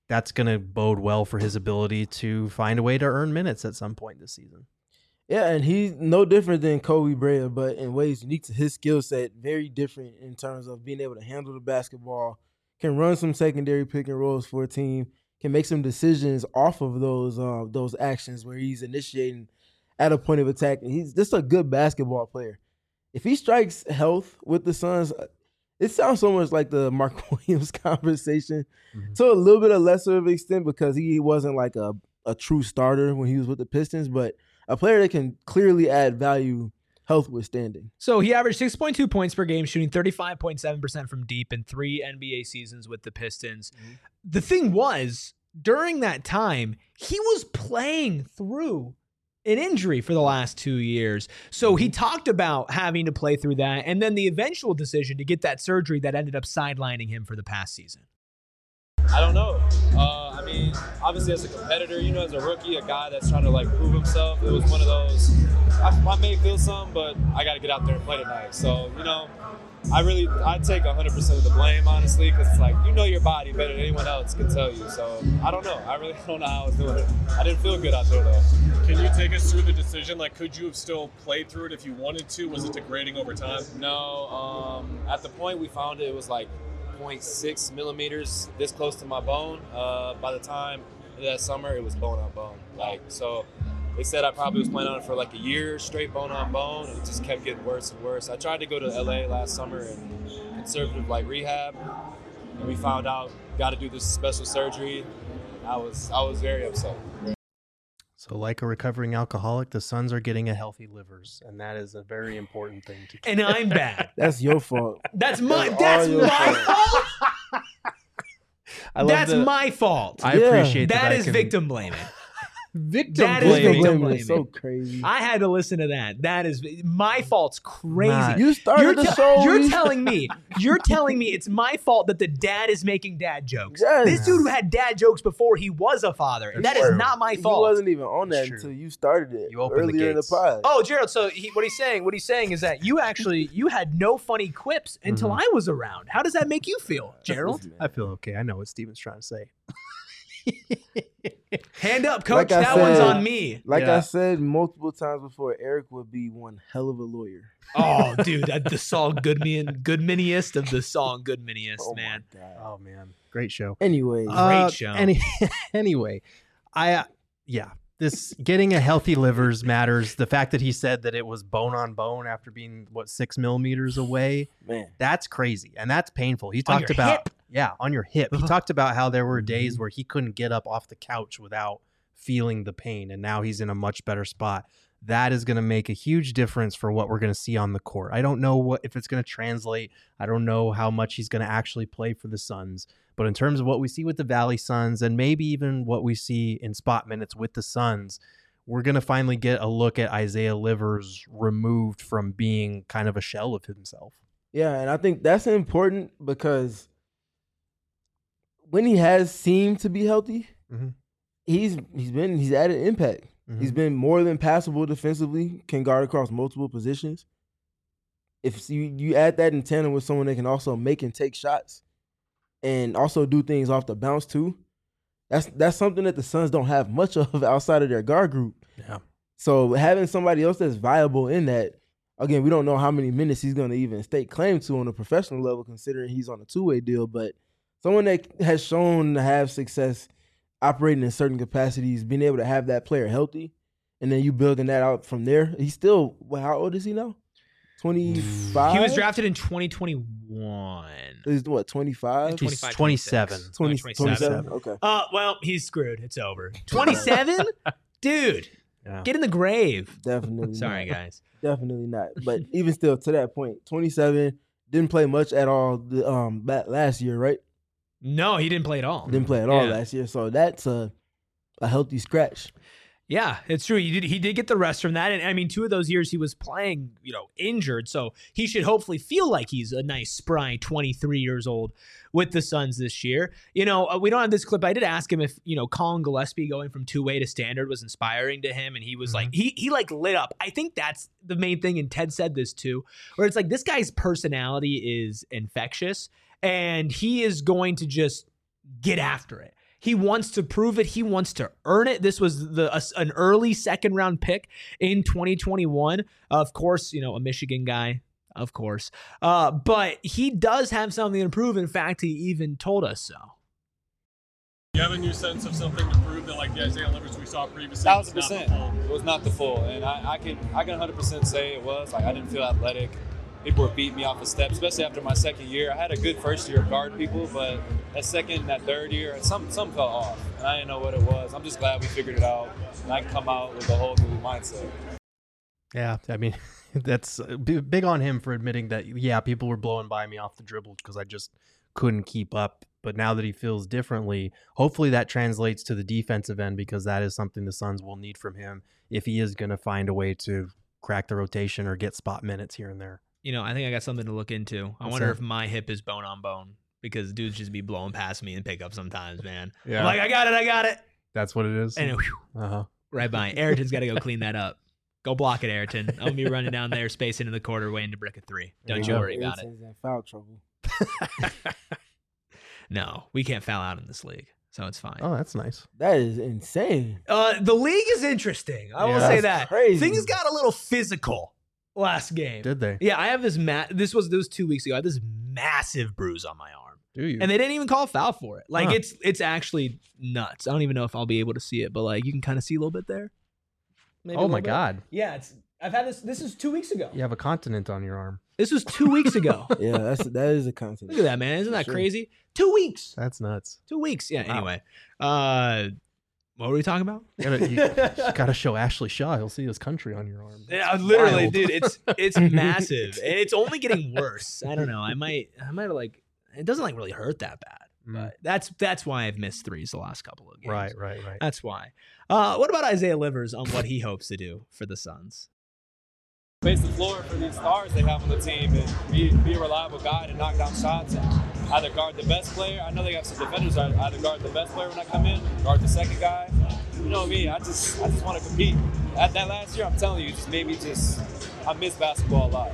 that's going to bode well for his ability to find a way to earn minutes at some point this season. Yeah, and he's no different than Kobe Bryant, but in ways unique to his skill set, very different in terms of being able to handle the basketball, can run some secondary pick and rolls for a team, can make some decisions off of those uh, those actions where he's initiating at a point of attack. And he's just a good basketball player. If he strikes health with the Suns, it sounds so much like the Mark Williams conversation mm-hmm. to a little bit of lesser of an extent because he wasn't like a, a true starter when he was with the Pistons, but a player that can clearly add value health withstanding. So he averaged six point two points per game, shooting thirty-five point seven percent from deep in three N B A seasons with the Pistons. Mm-hmm. The thing was, during that time, he was playing through an injury for the last two years. So he talked about having to play through that and then the eventual decision to get that surgery that ended up sidelining him for the past season. I don't know. Uh, I mean, obviously as a competitor, you know, as a rookie, a guy that's trying to like prove himself, it was one of those, I, I may feel some, but I got to get out there and play tonight. So, you know, I really, I take one hundred percent of the blame, honestly, because it's like, you know your body better than anyone else can tell you. So I don't know. I really don't know how I was doing it. I didn't feel good out there, though. Can you take us through the decision? Like, could you have still played through it if you wanted to? Was it degrading over time? No. Um, at the point we found it, it was like zero point six millimeters this close to my bone. Uh, by the time that summer, it was bone on bone. Like, so they said I probably was playing on it for like a year straight bone on bone. And it just kept getting worse and worse. I tried to go to L A last summer and conservative like rehab. And we found out, got to do this special surgery. I was, I was very upset. So like a recovering alcoholic, the Suns are getting a healthy livers, and that is a very important thing to keep. And I'm bad. That's your fault. That's my that's, that's my fault. I love that's the, my fault. I yeah. appreciate that. That is can, victim blaming. Victim that blaming. is victim blaming. So crazy. I had to listen to that. That is my fault's crazy. Nah, you started you're the te- show. You're telling me. You're telling me it's my fault that the dad is making dad jokes. Yes. This dude had dad jokes before he was a father. That's that true. is not my fault. He wasn't even on that until you started it you opened earlier the in the gates. pod. Oh, Gerald. So he, what he's saying, what he's saying is that you actually you had no funny quips until mm-hmm. I was around. How does that make you feel, Gerald? I feel okay. I know what Steven's trying to say. Hand up, coach. Like that said, one's on me. Like yeah. I said multiple times before, Eric would be one hell of a lawyer. Oh, dude, that, the song Goodman, Goodmaniest of the song Goodmaniest, oh man. My God. Oh man, great show. Anyway, Great uh, show. Any, anyway, I uh, yeah, this getting a healthy livers matters. The fact that he said that it was bone on bone after being what six millimeters away, man, that's crazy and that's painful. He On talked your about hip? yeah, on your hip. He talked about how there were days where he couldn't get up off the couch without feeling the pain, and now he's in a much better spot. That is going to make a huge difference for what we're going to see on the court. I don't know what if it's going to translate. I don't know how much he's going to actually play for the Suns. But in terms of what we see with the Valley Suns and maybe even what we see in spot minutes with the Suns, we're going to finally get a look at Isaiah Livers removed from being kind of a shell of himself. Yeah, and I think that's important because when he has seemed to be healthy, mm-hmm. he's he's been he's added impact. Mm-hmm. He's been more than passable defensively, can guard across multiple positions. If you, you add that in tandem with someone that can also make and take shots and also do things off the bounce too, that's that's something that the Suns don't have much of outside of their guard group. Yeah. So having somebody else that's viable in that, again, we don't know how many minutes he's going to even stake claim to on a professional level considering he's on a two-way deal, but someone that has shown to have success operating in certain capacities, being able to have that player healthy, and then you building that out from there. He's still, well, how old is he now? twenty-five? He was drafted in twenty twenty-one. He's what, twenty-five? He's twenty-seven. twenty, twenty-seven. twenty-seven? Okay. Uh, well, he's screwed. It's over. twenty-seven? Dude, Yeah. get in the grave. Definitely Sorry, not. guys. Definitely not. But even still, to that point, twenty-seven, didn't play much at all the, um, back last year, right? No, he didn't play at all. Didn't play at all Yeah. last year. So that's a, a healthy scratch. Yeah, it's true. He did he did get the rest from that. And I mean, two of those years he was playing, you know, injured. So he should hopefully feel like he's a nice, spry twenty-three years old with the Suns this year. You know, uh, we don't have this clip. I did ask him if, you know, Colin Gillespie going from two-way to standard was inspiring to him. And he was mm-hmm. like, he he like lit up. I think that's the main thing. And Ted said this too, where it's like this guy's personality is infectious and he is going to just get after it. He wants to prove it. He wants to earn it. This was the a, an early second round pick in twenty twenty-one. Of course, you know, a Michigan guy, of course. Uh, but he does have something to prove. In fact, he even told us so. You have a new sense of something to prove that, like the Isaiah Livers we saw previously? Thousand percent. It was not the full, and I, I can I can one hundred percent say it was. Like I didn't feel athletic. People were beating me off the steps, especially after my second year. I had a good first year of guarding people, but that second, that third year, some some fell off, and I didn't know what it was. I'm just glad we figured it out, and I can come out with a whole new mindset. Yeah, I mean, that's big on him for admitting that, yeah, people were blowing by me off the dribble because I just couldn't keep up. But now that he feels differently, hopefully that translates to the defensive end, because that is something the Suns will need from him if he is going to find a way to crack the rotation or get spot minutes here and there. You know, I think I got something to look into. I What's wonder that? if my hip is bone on bone, because dudes just be blowing past me and pick up sometimes, man. Yeah. I'm like, I got it, I got it. That's what it is. And whew, Uh-huh. right by. Ayrton's got to go clean that up. Go block it, Ayrton. I'm going to be running down there, space into the quarter, waiting to brick a three. Don't you go. worry about it. Ayrton's in foul trouble. No, we can't foul out in this league, so it's fine. Oh, that's nice. That is insane. Uh, the league is interesting. I will Yeah. say That's that. crazy. Things got a little physical last game. Did they? Yeah, I have this ma- This was this was two weeks ago. I have this massive bruise on my arm, Do you? and they didn't even call a foul for it. Like Huh. it's it's actually nuts. I don't even know if I'll be able to see it, but like you can kind of see a little bit there. Maybe a oh little my bit. God. Yeah, it's. I've had this. This is two weeks ago. You have a continent on your arm. This was two weeks ago. Yeah, that's that is a content. Look at that, man. Isn't that Sure. crazy? Two weeks. That's nuts. Two weeks. Yeah. Wow. Anyway, uh, what were we talking about? You gotta, you gotta show Ashley Shaw. He'll see his country on your arm. Yeah, literally, wild. dude. It's it's massive, and it's only getting worse. I don't know. I might I might like. It doesn't like really hurt that bad, Mm. but that's that's why I've missed threes the last couple of games. Right, right, right. That's why. Uh, what about Isaiah Livers on what he hopes to do for the Suns? Space the floor for these stars they have on the team, and be, be a reliable guy to knock down shots and either guard the best player. I know they got some defenders that either guard the best player when I come in, guard the second guy. You know me, I just I just want to compete. At that last year, I'm telling you, just made me just I miss basketball a lot.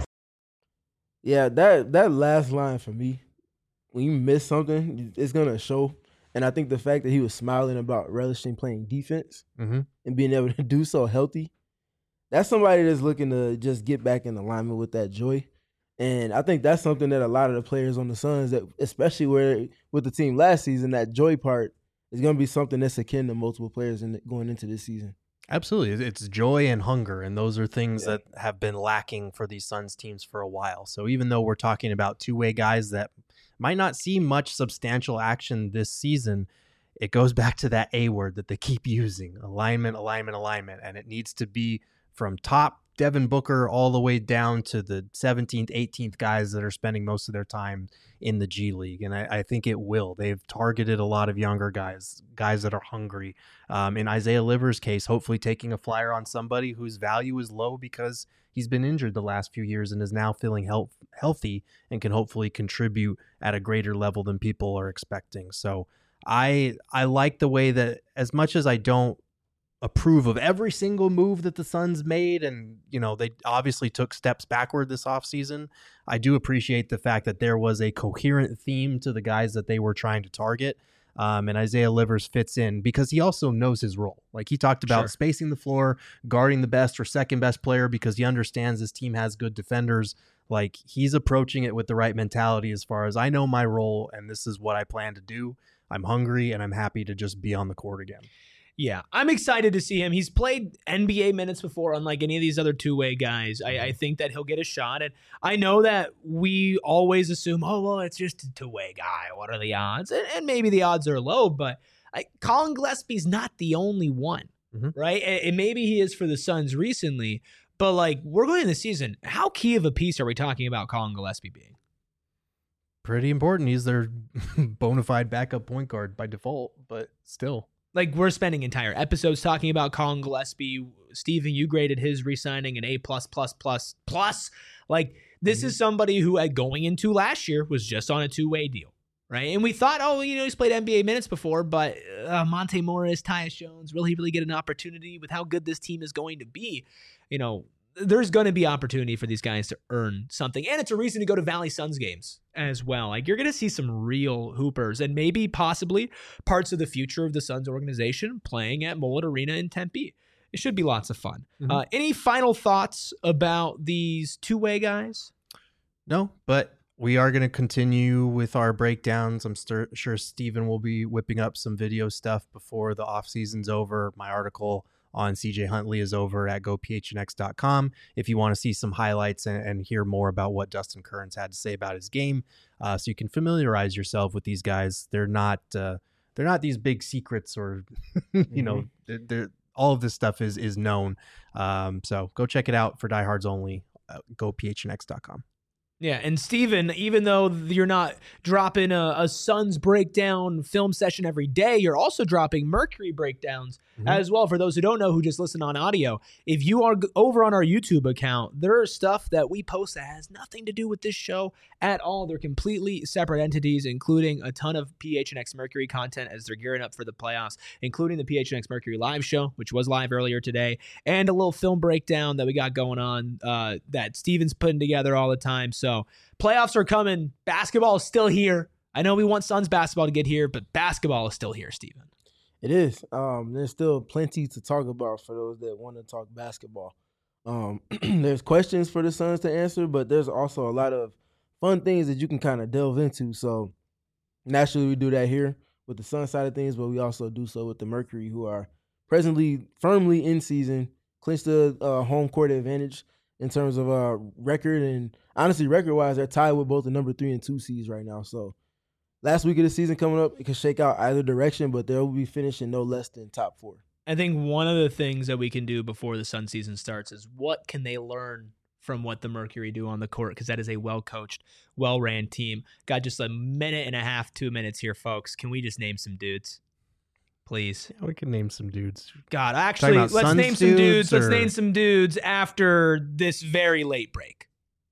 Yeah, that that last line for me, when you miss something, it's gonna show. And I think the fact that he was smiling about relishing playing defense Mm-hmm. and being able to do so healthy, that's somebody that's looking to just get back in alignment with that joy. And I think that's something that a lot of the players on the Suns, that especially where with the team last season, that joy part is going to be something that's akin to multiple players in going into this season. Absolutely. It's joy and hunger, and those are things Yeah. that have been lacking for these Suns teams for a while. So even though we're talking about two-way guys that might not see much substantial action this season, it goes back to that A word that they keep using, alignment, alignment, alignment, and it needs to be from top Devin Booker all the way down to the seventeenth, eighteenth guys that are spending most of their time in the G League. And I, I think it will. They've targeted a lot of younger guys, guys that are hungry. Um, in Isaiah Livers' case, hopefully taking a flyer on somebody whose value is low because he's been injured the last few years and is now feeling health, healthy and can hopefully contribute at a greater level than people are expecting. So I I like the way that, as much as I don't approve of every single move that the Suns made, and you know they obviously took steps backward this offseason, I do appreciate the fact that there was a coherent theme to the guys that they were trying to target. Um, and Isaiah Livers fits in because he also knows his role. Like he talked about Sure. spacing the floor, guarding the best or second best player because he understands his team has good defenders. Like he's approaching it with the right mentality as far as I know my role and this is what I plan to do. I'm hungry and I'm happy to just be on the court again. Yeah, I'm excited to see him. He's played N B A minutes before, unlike any of these other two-way guys. I, I think that he'll get a shot. And I know that we always assume, oh, well, it's just a two-way guy. What are the odds? And, and maybe the odds are low, but I, Colin Gillespie's not the only one, Mhm. right? And, and maybe he is for the Suns recently, but like we're going in the season. How key of a piece are we talking about Colin Gillespie being? Pretty important. He's their bona fide backup point guard by default, but still. Like we're spending entire episodes talking about Colin Gillespie. Steven, you graded his re-signing an A plus plus plus plus. Like this Mm-hmm. is somebody who, at going into last year, was just on a two-way deal, right? And we thought, oh, you know, he's played N B A minutes before, but uh, Monte Morris, Tyus Jones, will he really get an opportunity with how good this team is going to be? You know, there's going to be opportunity for these guys to earn something. And it's a reason to go to Valley Suns games as well. Like, you're going to see some real hoopers and maybe possibly parts of the future of the Suns organization playing at Mullet Arena in Tempe. It should be lots of fun. Mm-hmm. Uh, any final thoughts about these two-way guys? No, but we are going to continue with our breakdowns. I'm st- sure Steven will be whipping up some video stuff before the off season's over. My article on C J Huntley is over at go p h n x dot com if you want to see some highlights and, and hear more about what Dustin Kearns had to say about his game, uh, so you can familiarize yourself with these guys. They're not uh, they're not these big secrets, or you mm-hmm. know, they're, they're, all of this stuff is is known. Um, so go check it out for diehards only. Uh, go p h n x dot com. Yeah, and Steven, even though you're not dropping a, a Suns breakdown film session every day, you're also dropping Mercury breakdowns mm-hmm. as well. For those who don't know, who just listen on audio, if you are over on our YouTube account, there is stuff that we post that has nothing to do with this show at all. They're completely separate entities, including a ton of P H N X Mercury content as they're gearing up for the playoffs, including the P H N X Mercury live show, which was live earlier today, and a little film breakdown that we got going on uh, that Steven's putting together all the time. So playoffs are coming. Basketball is still here. I know we want Suns basketball to get here, but basketball is still here, Steven. It is. Um, there's still plenty to talk about for those that want to talk basketball. Um, there's questions for the Suns to answer, but there's also a lot of fun things that you can kind of delve into. So naturally we do that here with the Suns side of things, but we also do so with the Mercury, who are presently firmly in season, clinched the uh, home court advantage in terms of uh, record, and honestly, record-wise, they're tied with both the number three and two seeds right now. So last week of the season coming up, it can shake out either direction, but they'll be finishing no less than top four. I think one of the things that we can do before the Sun season starts is what can they learn from what the Mercury do on the court, because that is a well-coached, well-ran team. Got just a minute and a half, two minutes here, folks. Can we just name some dudes? Please. Yeah, we can name some dudes. God, actually, let's Suns name some dudes. Or... Let's name some dudes after this very late break.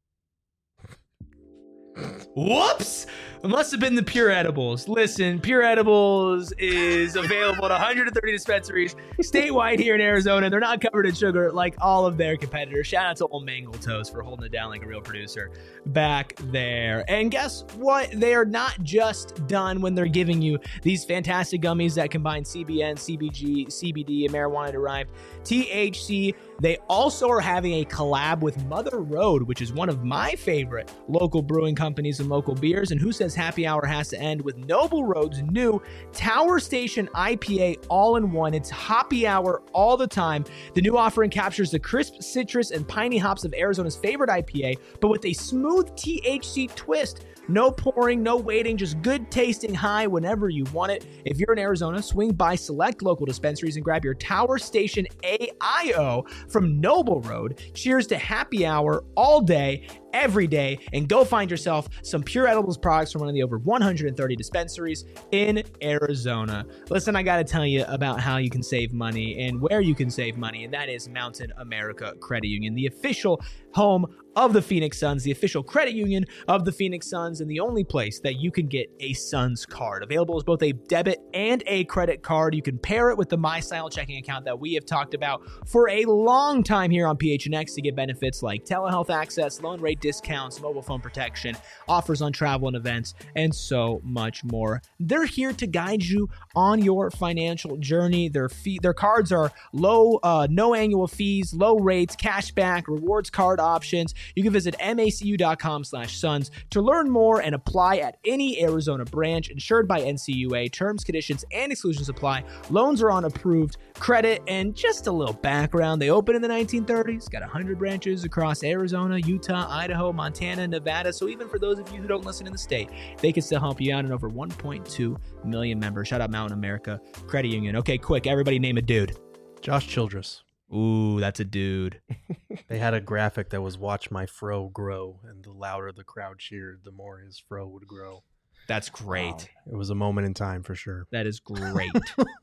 Whoops! It must have been the Pure Edibles. Listen, Pure Edibles is available at one hundred thirty dispensaries statewide here in Arizona. They're not covered in sugar like all of their competitors. Shout out to old Mangle Toast for holding it down like a real producer back there. And guess what? They are not just done when they're giving you these fantastic gummies that combine C B N, C B G, C B D, and marijuana-derived T H C. They also are having a collab with Mother Road, which is one of my favorite local brewing companies and local beers. And who says happy hour has to end with Noble Road's new Tower Station I P A all-in-one. It's happy hour all the time. The new offering captures the crisp citrus and piney hops of Arizona's favorite I P A, but with a smooth T H C twist. No pouring, no waiting, just good tasting high whenever you want it. If you're in Arizona, swing by select local dispensaries and grab your Tower Station A I O from Noble Road. Cheers to happy hour all day, every day, and go find yourself some Pure Edibles products from one of the over one hundred thirty dispensaries in Arizona. Listen, I got to tell you about how you can save money and where you can save money, and that is Mountain America Credit Union, the official home of the Phoenix Suns, the official credit union of the Phoenix Suns, and the only place that you can get a Suns card. Available as both a debit and a credit card. You can pair it with the MyStyle checking account that we have talked about for a long time here on P H N X to get benefits like telehealth access, loan rate discounts, mobile phone protection, offers on travel and events, and so much more. They're here to guide you on your financial journey. Their fee, their cards are low, uh, no annual fees, low rates, cashback, rewards card options. You can visit macu.com slash Suns to learn more and apply at any Arizona branch, insured by N C U A. Terms, conditions, and exclusions apply. Loans are on approved credit. And just a little background, they opened in the nineteen thirties, got one hundred branches across Arizona, Utah, Idaho, Montana, Nevada. So even for those of you who don't listen in the state, they can still help you out in over one point two million members. Shout out Mountain America Credit Union. Okay, quick, everybody name a dude. Josh Childress. Ooh, that's a dude. They had a graphic that was "Watch my fro grow," and the louder the crowd cheered, the more his fro would grow. That's great. Wow. It was a moment in time for sure. That is great.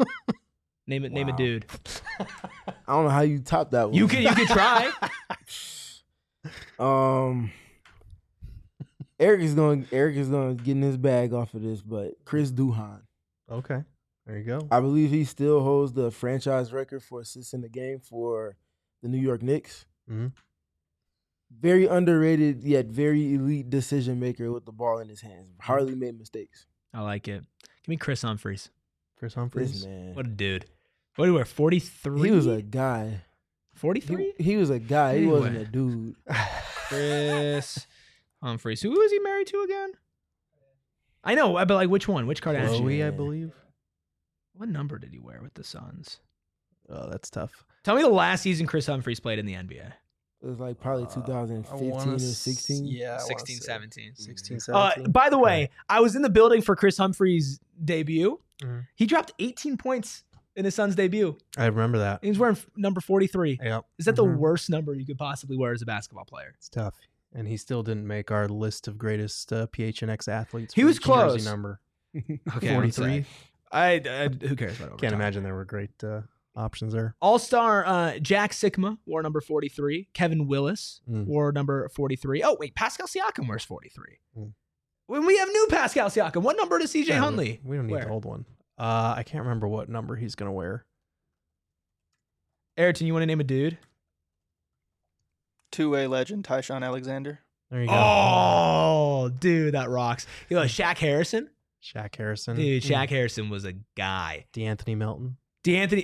Name it. Wow. Name a dude. I don't know how you top that one. You can. You can try. um, Eric is going. Eric is going to get in his bag off of this, but Chris Duhon. Okay. There you go. I believe he still holds the franchise record for assists in the game for the New York Knicks. Mm-hmm. very underrated yet very elite decision maker with the ball in his hands. Hardly made mistakes. I like it. Give me Chris Humphries. Chris This Humphries. man. What a dude. What do you wear? forty-three? He was a guy. forty-three? He, he was a guy. He Anyway. wasn't a dude. Chris Humphries. Who was he married to again? I know, but like which one? Which Kardashian? Chloe, I believe. What number did he wear with the Suns? Oh, that's tough. Tell me the last season Chris Humphries played in the N B A. It was like probably Uh, two thousand I fifteen wanna or s- sixteen. Yeah, I wanna sixteen, say seventeen. sixteen, Uh, seventeen. by the Okay. way, I was in the building for Chris Humphries' debut. Mhm. He dropped eighteen points in his son's debut. I remember that. He was wearing f- number forty-three. Yep. Is that the Mhm. worst number you could possibly wear as a basketball player? It's tough. And he still didn't make our list of greatest uh, P H N X athletes. He for was each close. Jersey number. Okay, I would say. forty-three. I, I who cares about Can't overtime? imagine there were great uh, options there. All-star uh, Jack Sikma wore number forty-three. Kevin Willis Mm. wore number forty-three. Oh, wait, Pascal Siakam wears forty-three. Mm. When we have new Pascal Siakam, what number does C J Yeah, we- Huntley We don't need wear? the old one. Uh, I can't remember what number he's going to wear. Ayrton, you want to name a dude? Two-way legend Tyshawn Alexander. There you go. Oh, dude, that rocks. You know, Shaq Harrison? Shaq Harrison. Dude, Shaq Harrison was a guy. DeAnthony Melton. DeAnthony.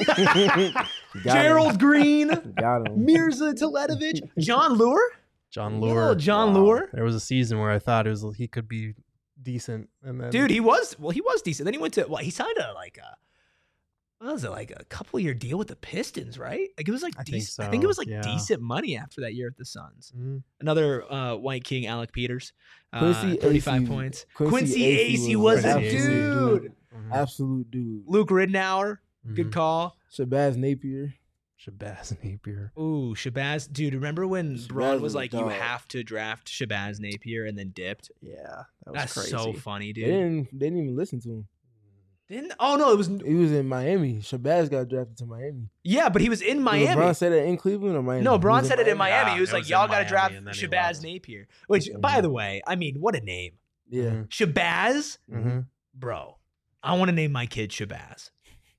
Got Gerald him. Green. Got him. Mirza Teledovic. John Lure? John Little Lure. John Wow. Lure. There was a season where I thought it was he could be decent, and then Dude, he was, well, he was decent. Then he went to, well, he signed a, like a, what was it, like a couple year deal with the Pistons, right? Like it was like I think decent. I think it so, was like yeah. decent money after that year at the Suns. Mhm. Another uh, White King, Alec Peters. Uh, Quincy thirty-five Acey- points. Quincy Quincy Acey Acey was was an a absolute dude. Mhm. Absolute dude. Luke Ridnour, Mhm. good call. Shabazz Napier. Shabazz Napier. Ooh, Shabazz. Dude, remember when Shabazz Braun was was a like, you dog. have to draft Shabazz Napier and then dipped? Yeah, that was That's crazy. so funny, They dude. didn't. They didn't even listen to him. Didn't, oh, no, it was, He was in Miami. Shabazz got drafted to Miami. yeah, but he was in Did Miami. LeBron said it in Cleveland or Miami? No, He Braun was said it in Miami. Yeah, he was it like, was in y'all got to Miami, draft and then he Shabazz left. Napier. Which, Mhm. by the way, I mean, what a name. Yeah. Mhm. Shabazz? Mhm. Bro, I want to name my kid Shabazz.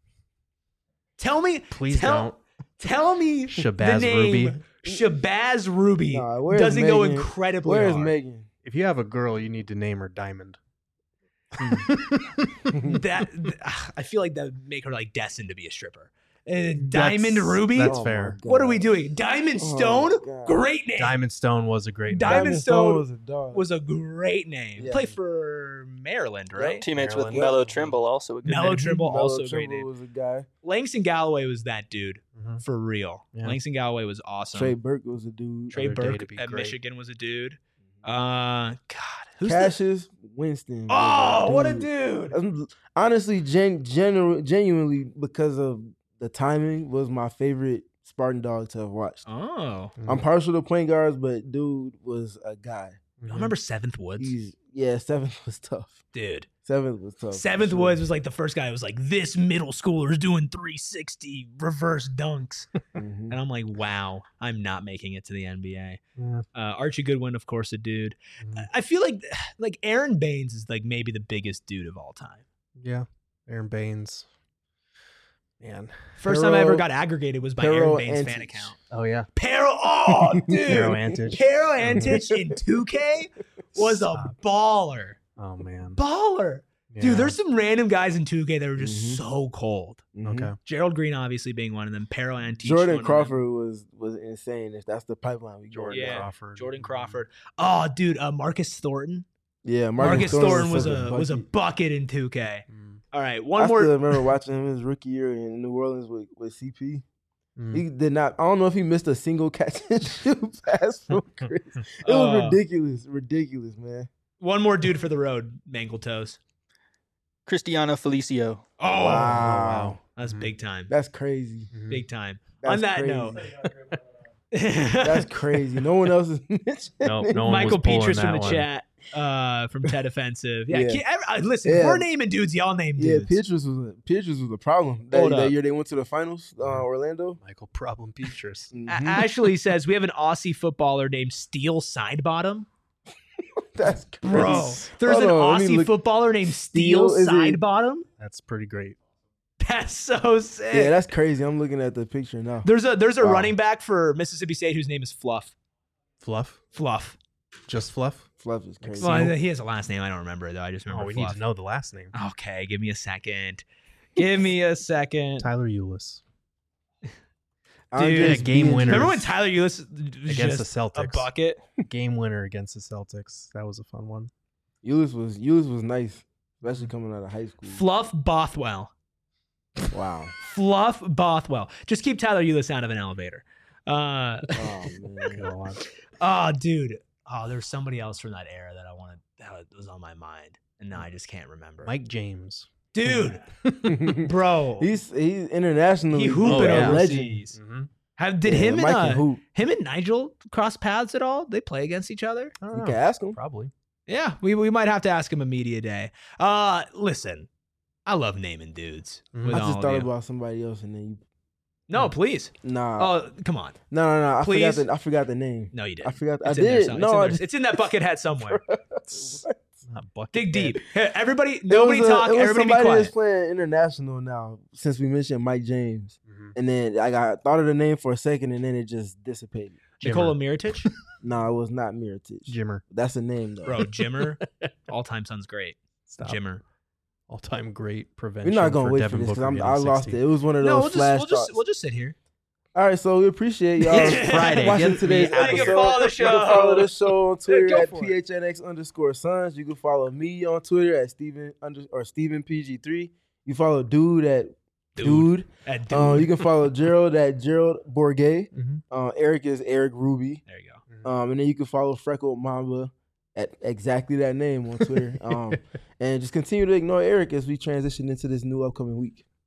Tell me, Please tell, don't. Tell me the Shabazz name Ruby. Shabazz Ruby Nah, where's doesn't go Megan? incredibly Where's hard. Megan? If you have a girl, you need to name her Diamond. That I feel like that would make her like destined to be a stripper. Uh, Diamond That's- Ruby. That's Oh my fair. God. What are we doing? Diamond Oh Stone. my God. Great name. Diamond Stone was a great name. Diamond Stone was a dog. was a great name. Yeah. Played for Maryland, right? Teammates Maryland. with Mello Trimble, also a good Mellow name. Trimble, Melo also a great Trimble name. was a guy. Langston Galloway was that dude Mhm. for real. Yeah. Langston Galloway was awesome. Trey Burke was a dude. Trey Another day Burke to be at great. Michigan was a dude. Uh, God, who's the, Cassius Winston. was oh, what a dude! Um, Honestly, gen, genu- genuinely, because of the timing, was my favorite Spartan dog to have watched. Oh, Mhm. I'm partial to point guards, but dude was a guy. I remember Seventh Woods, He's yeah, seventh was tough. dude. Seventh was tough. for Seventh sure. Woods was like the first guy who was like, this middle schooler is doing three sixty reverse dunks. Mhm. And I'm like, wow, I'm not making it to the N B A. Yeah. Uh, Archie Goodwin, of course, a dude. Mhm. I feel like like Aaron Baines is like maybe the biggest dude of all time. Yeah. Aaron Baines. Man. First time I ever Pero- got aggregated was by Pero Aaron Baines' fan Antich. account. Oh, yeah. Pero, oh, dude. Pero Antich. Pero Antich in two K was a Stop. baller. Oh, man. Baller. Yeah. Dude, there's some random guys in two K that were just Mhm. so cold. Mhm. Okay. Gerald Green obviously being one of them. Pero Antich. one Jordan of them. Crawford was was insane. If that's the pipeline we go. Jordan Yeah. Crawford. Jordan Crawford. Oh, dude, uh, Marcus Thornton. Yeah, Marcus, Thornton was such a was a bucket. bucket in two K. Mm. All right, one I more. still remember watching him his rookie year in New Orleans with, with C P. Mm. He did not. I don't know if he missed a single catch and shoot pass from Chris. It was Uh, ridiculous, ridiculous, man. One more dude for the road. Mangle toes. Cristiano Felicio. Oh, Wow. that's Mhm. big time. That's crazy. Mhm. Big time. That's On that crazy. note, That's crazy. No one else is mentioning. Nope, no one Michael was pulling Petrus from that the one. chat, uh, from Ted Offensive. Yeah, Yeah. can't- every- uh, listen, Yeah. we're naming dudes. Y'all name Yeah, dudes. Petrus was a, Petrus was a problem. That, Hold that up. year they went to the finals, uh, Orlando. Michael Problem Petrus. A- Mhm. Ashley says we have an Aussie footballer named Steel Sidebottom. That's crazy. Bro, there's Hold an on, let me Aussie look- footballer named Steel, Steel? Is it- Sidebottom. That's pretty great. That's so sick. Yeah, that's crazy. I'm looking at the picture now. there's a there's a Wow. running back for Mississippi State whose name is Fluff. Fluff. Fluff. Just Fluff. Fluff is crazy. Well, he has a last name. I don't remember it, though. I just remember Oh, we Fluff. need to know the last name. Okay, give me a second. Give me a second. Tyler Eulis. Andres Dude, game Biaggi. winner. Remember when Tyler Eulis was Against just the Celtics. a bucket? Game winner against the Celtics. That was a fun one. Eulis was Eulis was nice, especially coming out of high school. Fluff Bothwell. Wow. Fluff Bothwell. Just keep Tyler Eulis out of an elevator. Uh, Oh man. oh, dude. Oh, there's somebody else from that era that I wanted that was on my mind, and now I just can't remember. Mike James. Dude, bro, he's he's internationally he hooping Oh, yeah. a legend. overseas. Mm-hmm. Have, did Yeah, him and Mike uh, can hoop. him and Nigel cross paths at all? They play against each other? I don't You know. can ask him. Probably. Yeah, we we might have to ask him a media day. Uh, listen, I love naming dudes. Mhm. With I all just of thought you. about somebody else, and then you. No, please. Nah. Oh, come on. no, no, no. I please. forgot the I forgot the name. No, you didn't. I forgot. It's I in there did. some- No, it's, in I there. just, It's in that bucket hat somewhere. Not bucket Dig head. deep. Here, everybody, It nobody was a- talk. it was Everybody be somebody that's quiet. playing international now. Since we mentioned Mike James, Mhm. and then I got thought of the name for a second, and then it just dissipated. Nikola Mirotic, No, it was not Mirotic. Jimmer. That's a name though. bro. Jimmer, all time son's great. Stop. Jimmer. All time great prevention. We're not gonna for wait Devin for this Booker because I getting lost sixty. it. It was one of those No, we'll just flash we'll just thoughts. we'll just sit here. All right, so we appreciate y'all It's Friday. watching Get today's me out of episode. here. You can follow the You show. can follow the show on Twitter Go at for it. P H N X underscore Sons. You can follow me on Twitter at Steven under or Steven P G three. You follow Dude at Dude. Dude. At dude. Uh, you can follow Gerald at Gerald Bourget. Mhm. Uh, Eric is Eric Ruby. there you go. Um, and then you can follow Freckled Mamba at exactly that name on Twitter. Um, and just continue to ignore Eric as we transition into this new upcoming week.